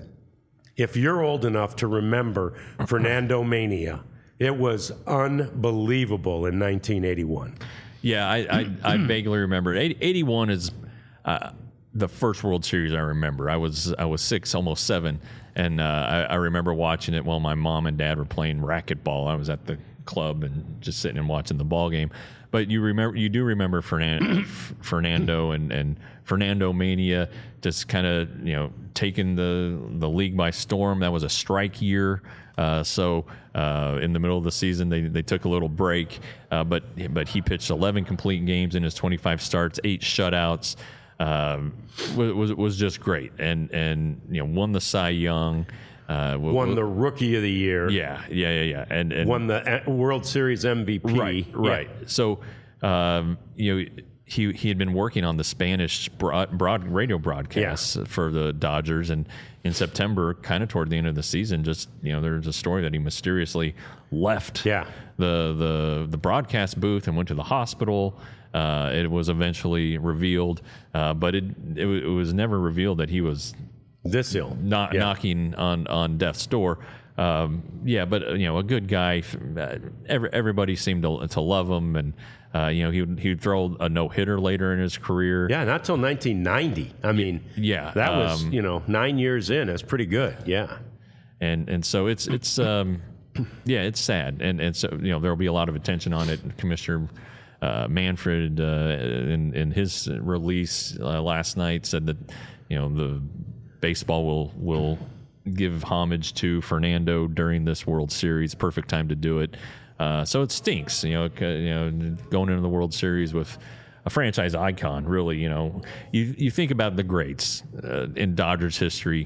[SPEAKER 1] if you're old enough to remember Fernando Mania, it was unbelievable in nineteen eighty-one.
[SPEAKER 3] Yeah, I I, I vaguely remember. eighty-one is uh, the first World Series I remember. I was I was six, almost seven. And uh, I, I remember watching it while my mom and dad were playing racquetball. I was at the club and just sitting and watching the ball game. But you remember, you do remember Fernan- Fernando and, and Fernando Mania just kind of, you know, taking the the league by storm. That was a strike year. Uh, so uh, in the middle of the season, they, they took a little break. Uh, but but he pitched eleven complete games in his twenty-five starts, eight shutouts. Um, was, was was just great, and and you know won the Cy Young, uh, w-
[SPEAKER 1] Won
[SPEAKER 3] w-
[SPEAKER 1] the Rookie of the Year.
[SPEAKER 3] yeah yeah yeah yeah, and, and
[SPEAKER 1] Won the uh, World Series M V P.
[SPEAKER 3] right
[SPEAKER 1] Yeah.
[SPEAKER 3] right. So um, you know he he had been working on the Spanish broad, broad radio broadcasts for the Dodgers, and in September, kind of toward the end of the season, just you know there's a story that he mysteriously left
[SPEAKER 1] Yeah.
[SPEAKER 3] the the the broadcast booth and went to the hospital. Uh, it was eventually revealed, uh, but it, it it was never revealed that he was
[SPEAKER 1] This ill.
[SPEAKER 3] not
[SPEAKER 1] Yeah.
[SPEAKER 3] knocking on, on death's door. Um, yeah, but uh, you know, a good guy. Uh, every, everybody seemed to to love him, and uh, you know, he would he would throw a no hitter later in his career.
[SPEAKER 1] Yeah, not till nineteen ninety. I mean,
[SPEAKER 3] Yeah,
[SPEAKER 1] that was,
[SPEAKER 3] um,
[SPEAKER 1] you know, nine years in. That's pretty good. Yeah.
[SPEAKER 3] and and so it's it's um, yeah, it's sad, and and so you know, there will be a lot of attention on it. Commissioner Uh, Manfred, uh, in, in his release uh, last night, said that you know the baseball will will give homage to Fernando during this World Series. Perfect time to do it. Uh, so it stinks, you know, c- you know, going into the World Series with a franchise icon. Really, you know, you you think about the greats uh, in Dodgers history.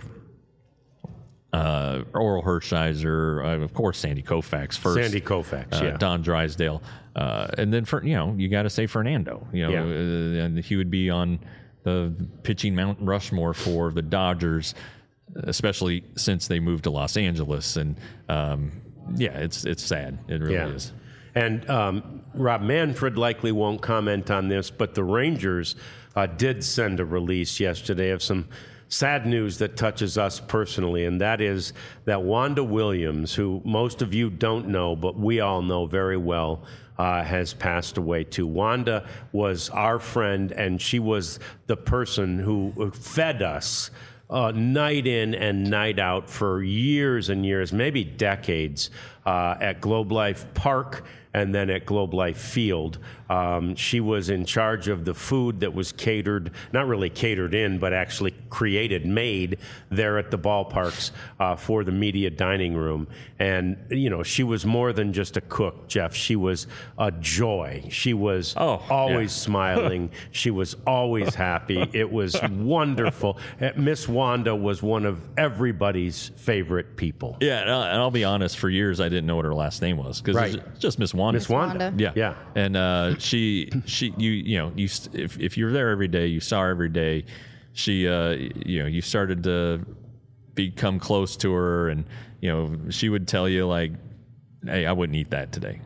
[SPEAKER 3] Uh, Oral Hershiser, uh, of course, Sandy Koufax first.
[SPEAKER 1] Sandy Koufax,
[SPEAKER 3] uh,
[SPEAKER 1] yeah.
[SPEAKER 3] Don Drysdale, uh, and then for you know you got to say Fernando. You know,
[SPEAKER 1] Yeah.
[SPEAKER 3] uh, and he would be on the pitching Mount Rushmore for the Dodgers, especially since they moved to Los Angeles. And um, yeah, it's it's sad. It really
[SPEAKER 1] Yeah.
[SPEAKER 3] is.
[SPEAKER 1] And um, Rob Manfred likely won't comment on this, but the Rangers uh, did send a release yesterday of some sad news that touches us personally, and that is that Wanda Williams, who most of you don't know, but we all know very well, uh, has passed away too. Wanda was our friend, and she was the person who fed us uh, night in and night out for years and years, maybe decades, uh, at Globe Life Park and then at Globe Life Field. Um, she was in charge of the food that was catered, not really catered in, but actually created, made there at the ballparks uh, for the media dining room. And, you know, she was more than just a cook, Jeff. She was a joy. She was
[SPEAKER 3] Oh,
[SPEAKER 1] always
[SPEAKER 3] yeah.
[SPEAKER 1] smiling. She was always happy. It was wonderful. Uh, Miss Wanda was one of everybody's favorite people.
[SPEAKER 3] Yeah, and I'll, and I'll be honest. For years, I didn't know what her last name was because
[SPEAKER 1] Right.
[SPEAKER 3] it's just Miss Wanda.
[SPEAKER 1] Miss Wanda.
[SPEAKER 2] Wanda.
[SPEAKER 3] Yeah,
[SPEAKER 1] Yeah.
[SPEAKER 3] And uh, she, she, you, you know, you st- if if you're there every day, you saw her every day. She, uh, you know, you started to become close to her, and you know, she would tell you like, "Hey, I wouldn't eat that today."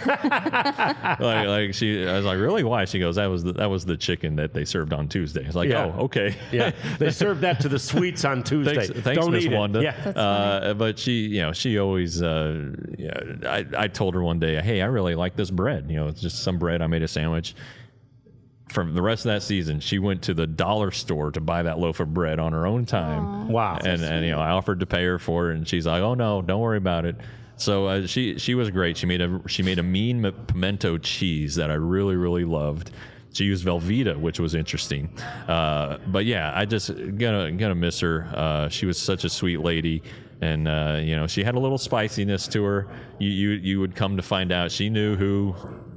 [SPEAKER 3] like, like she, I was like, "Really? Why?" She goes, "That was the, that was the chicken that they served on Tuesday." It's like,
[SPEAKER 1] Yeah.
[SPEAKER 3] "Oh, okay."
[SPEAKER 1] Yeah, they served that to the suites on Tuesday.
[SPEAKER 3] Thanks, thanks
[SPEAKER 1] Don't
[SPEAKER 3] Miss
[SPEAKER 1] eat it.
[SPEAKER 3] Wanda.
[SPEAKER 1] Yeah.
[SPEAKER 3] Uh, but she, you know, she always, uh, yeah, I, I told her one day, hey, I really like this bread. You know, it's just some bread. I made a sandwich. From the rest of that season, she went to the dollar store to buy that loaf of bread on her own time.
[SPEAKER 1] Wow.
[SPEAKER 3] And, and, you know, I offered to pay her for it, and she's like, oh, no, don't worry about it. So uh, she she was great. She made a she made a mean pimento cheese that I really really loved. She used Velveeta, which was interesting. Uh, but yeah, I just gonna gonna miss her. Uh, she was such a sweet lady, and uh, you know, she had a little spiciness to her. You you you would come to find out she knew who,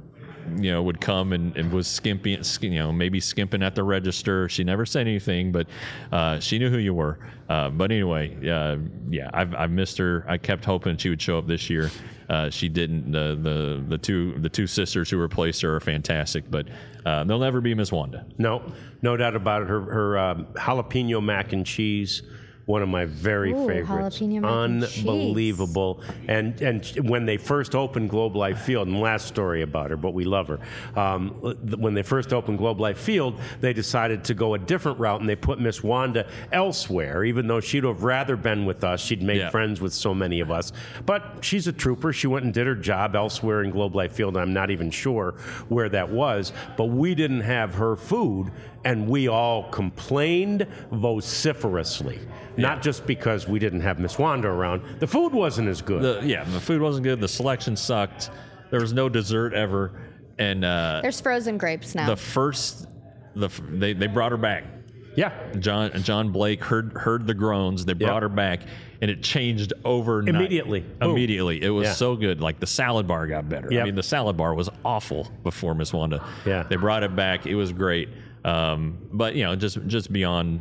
[SPEAKER 3] you know, would come and, and was skimping, you know, maybe skimping at the register. She never said anything, but uh, she knew who you were. Uh, but anyway, uh, yeah, I've, I've missed her. I kept hoping she would show up this year. Uh, she didn't. The, the the two the two sisters who replaced her are fantastic, but uh, they'll never be Miss Wanda.
[SPEAKER 1] No, no doubt about it. Her her um, jalapeno mac and cheese. One of my very
[SPEAKER 2] Ooh,
[SPEAKER 1] favorites.
[SPEAKER 2] jalapeno mac and cheese.
[SPEAKER 1] Unbelievable. And and when they first opened Globe Life Field, and last story about her, but we love her. Um, when they first opened Globe Life Field, they decided to go a different route, and they put Miss Wanda elsewhere, even though she'd have rather been with us. She'd made
[SPEAKER 3] yeah.
[SPEAKER 1] friends with so many of us. But she's a trooper. She went and did her job elsewhere in Globe Life Field. I'm not even sure where that was. But we didn't have her food, and we all complained vociferously.
[SPEAKER 3] Yeah.
[SPEAKER 1] Not just because we didn't have Miss Wanda around. The food wasn't as good.
[SPEAKER 3] The, yeah, the food wasn't good. The selection sucked. There was no dessert ever. And uh,
[SPEAKER 2] There's frozen grapes now.
[SPEAKER 3] the first, the they, they brought her back.
[SPEAKER 1] Yeah.
[SPEAKER 3] John John Blake heard heard the groans. They brought
[SPEAKER 1] Yep.
[SPEAKER 3] her back, and it changed overnight.
[SPEAKER 1] Immediately. Boom.
[SPEAKER 3] Immediately. It was
[SPEAKER 1] Yeah.
[SPEAKER 3] so good. Like the salad bar got better.
[SPEAKER 1] Yep.
[SPEAKER 3] I mean, the salad bar was awful before Miss Wanda.
[SPEAKER 1] Yeah.
[SPEAKER 3] They brought it back. It was great. Um, but you know, just just beyond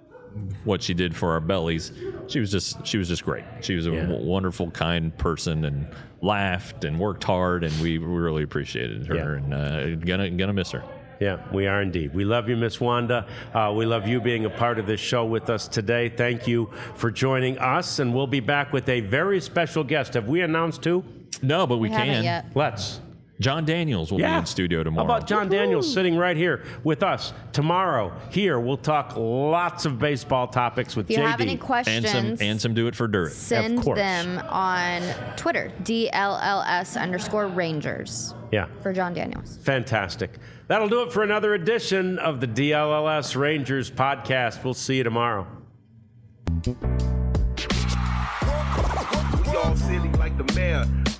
[SPEAKER 3] what she did for our bellies, she was just she was just great. She was a
[SPEAKER 1] Yeah.
[SPEAKER 3] w- wonderful, kind person, and laughed and worked hard, and we really appreciated her.
[SPEAKER 1] Yeah.
[SPEAKER 3] And uh, gonna gonna miss her.
[SPEAKER 1] Yeah, we are indeed. We love you, Miss Wanda. Uh, we love you being a part of this show with us today. Thank you for joining us, and we'll be back with a very special guest. Have we announced who?
[SPEAKER 3] No, but we,
[SPEAKER 2] we
[SPEAKER 3] can.
[SPEAKER 2] haven't yet.
[SPEAKER 1] Let's.
[SPEAKER 3] John Daniels will be in studio tomorrow.
[SPEAKER 1] How about John Daniels sitting right here with us tomorrow? Here, we'll talk lots of baseball topics with
[SPEAKER 2] If you
[SPEAKER 1] J D.
[SPEAKER 2] have any questions,
[SPEAKER 3] and some and some do it for dirt.
[SPEAKER 2] send
[SPEAKER 1] Of course.
[SPEAKER 2] them on Twitter, D L L S underscore Rangers
[SPEAKER 1] Yeah.
[SPEAKER 2] for John Daniels.
[SPEAKER 1] Fantastic. That'll do it for another edition of the D L L S Rangers podcast. We'll see you tomorrow.
[SPEAKER 4] We all silly like the mayor.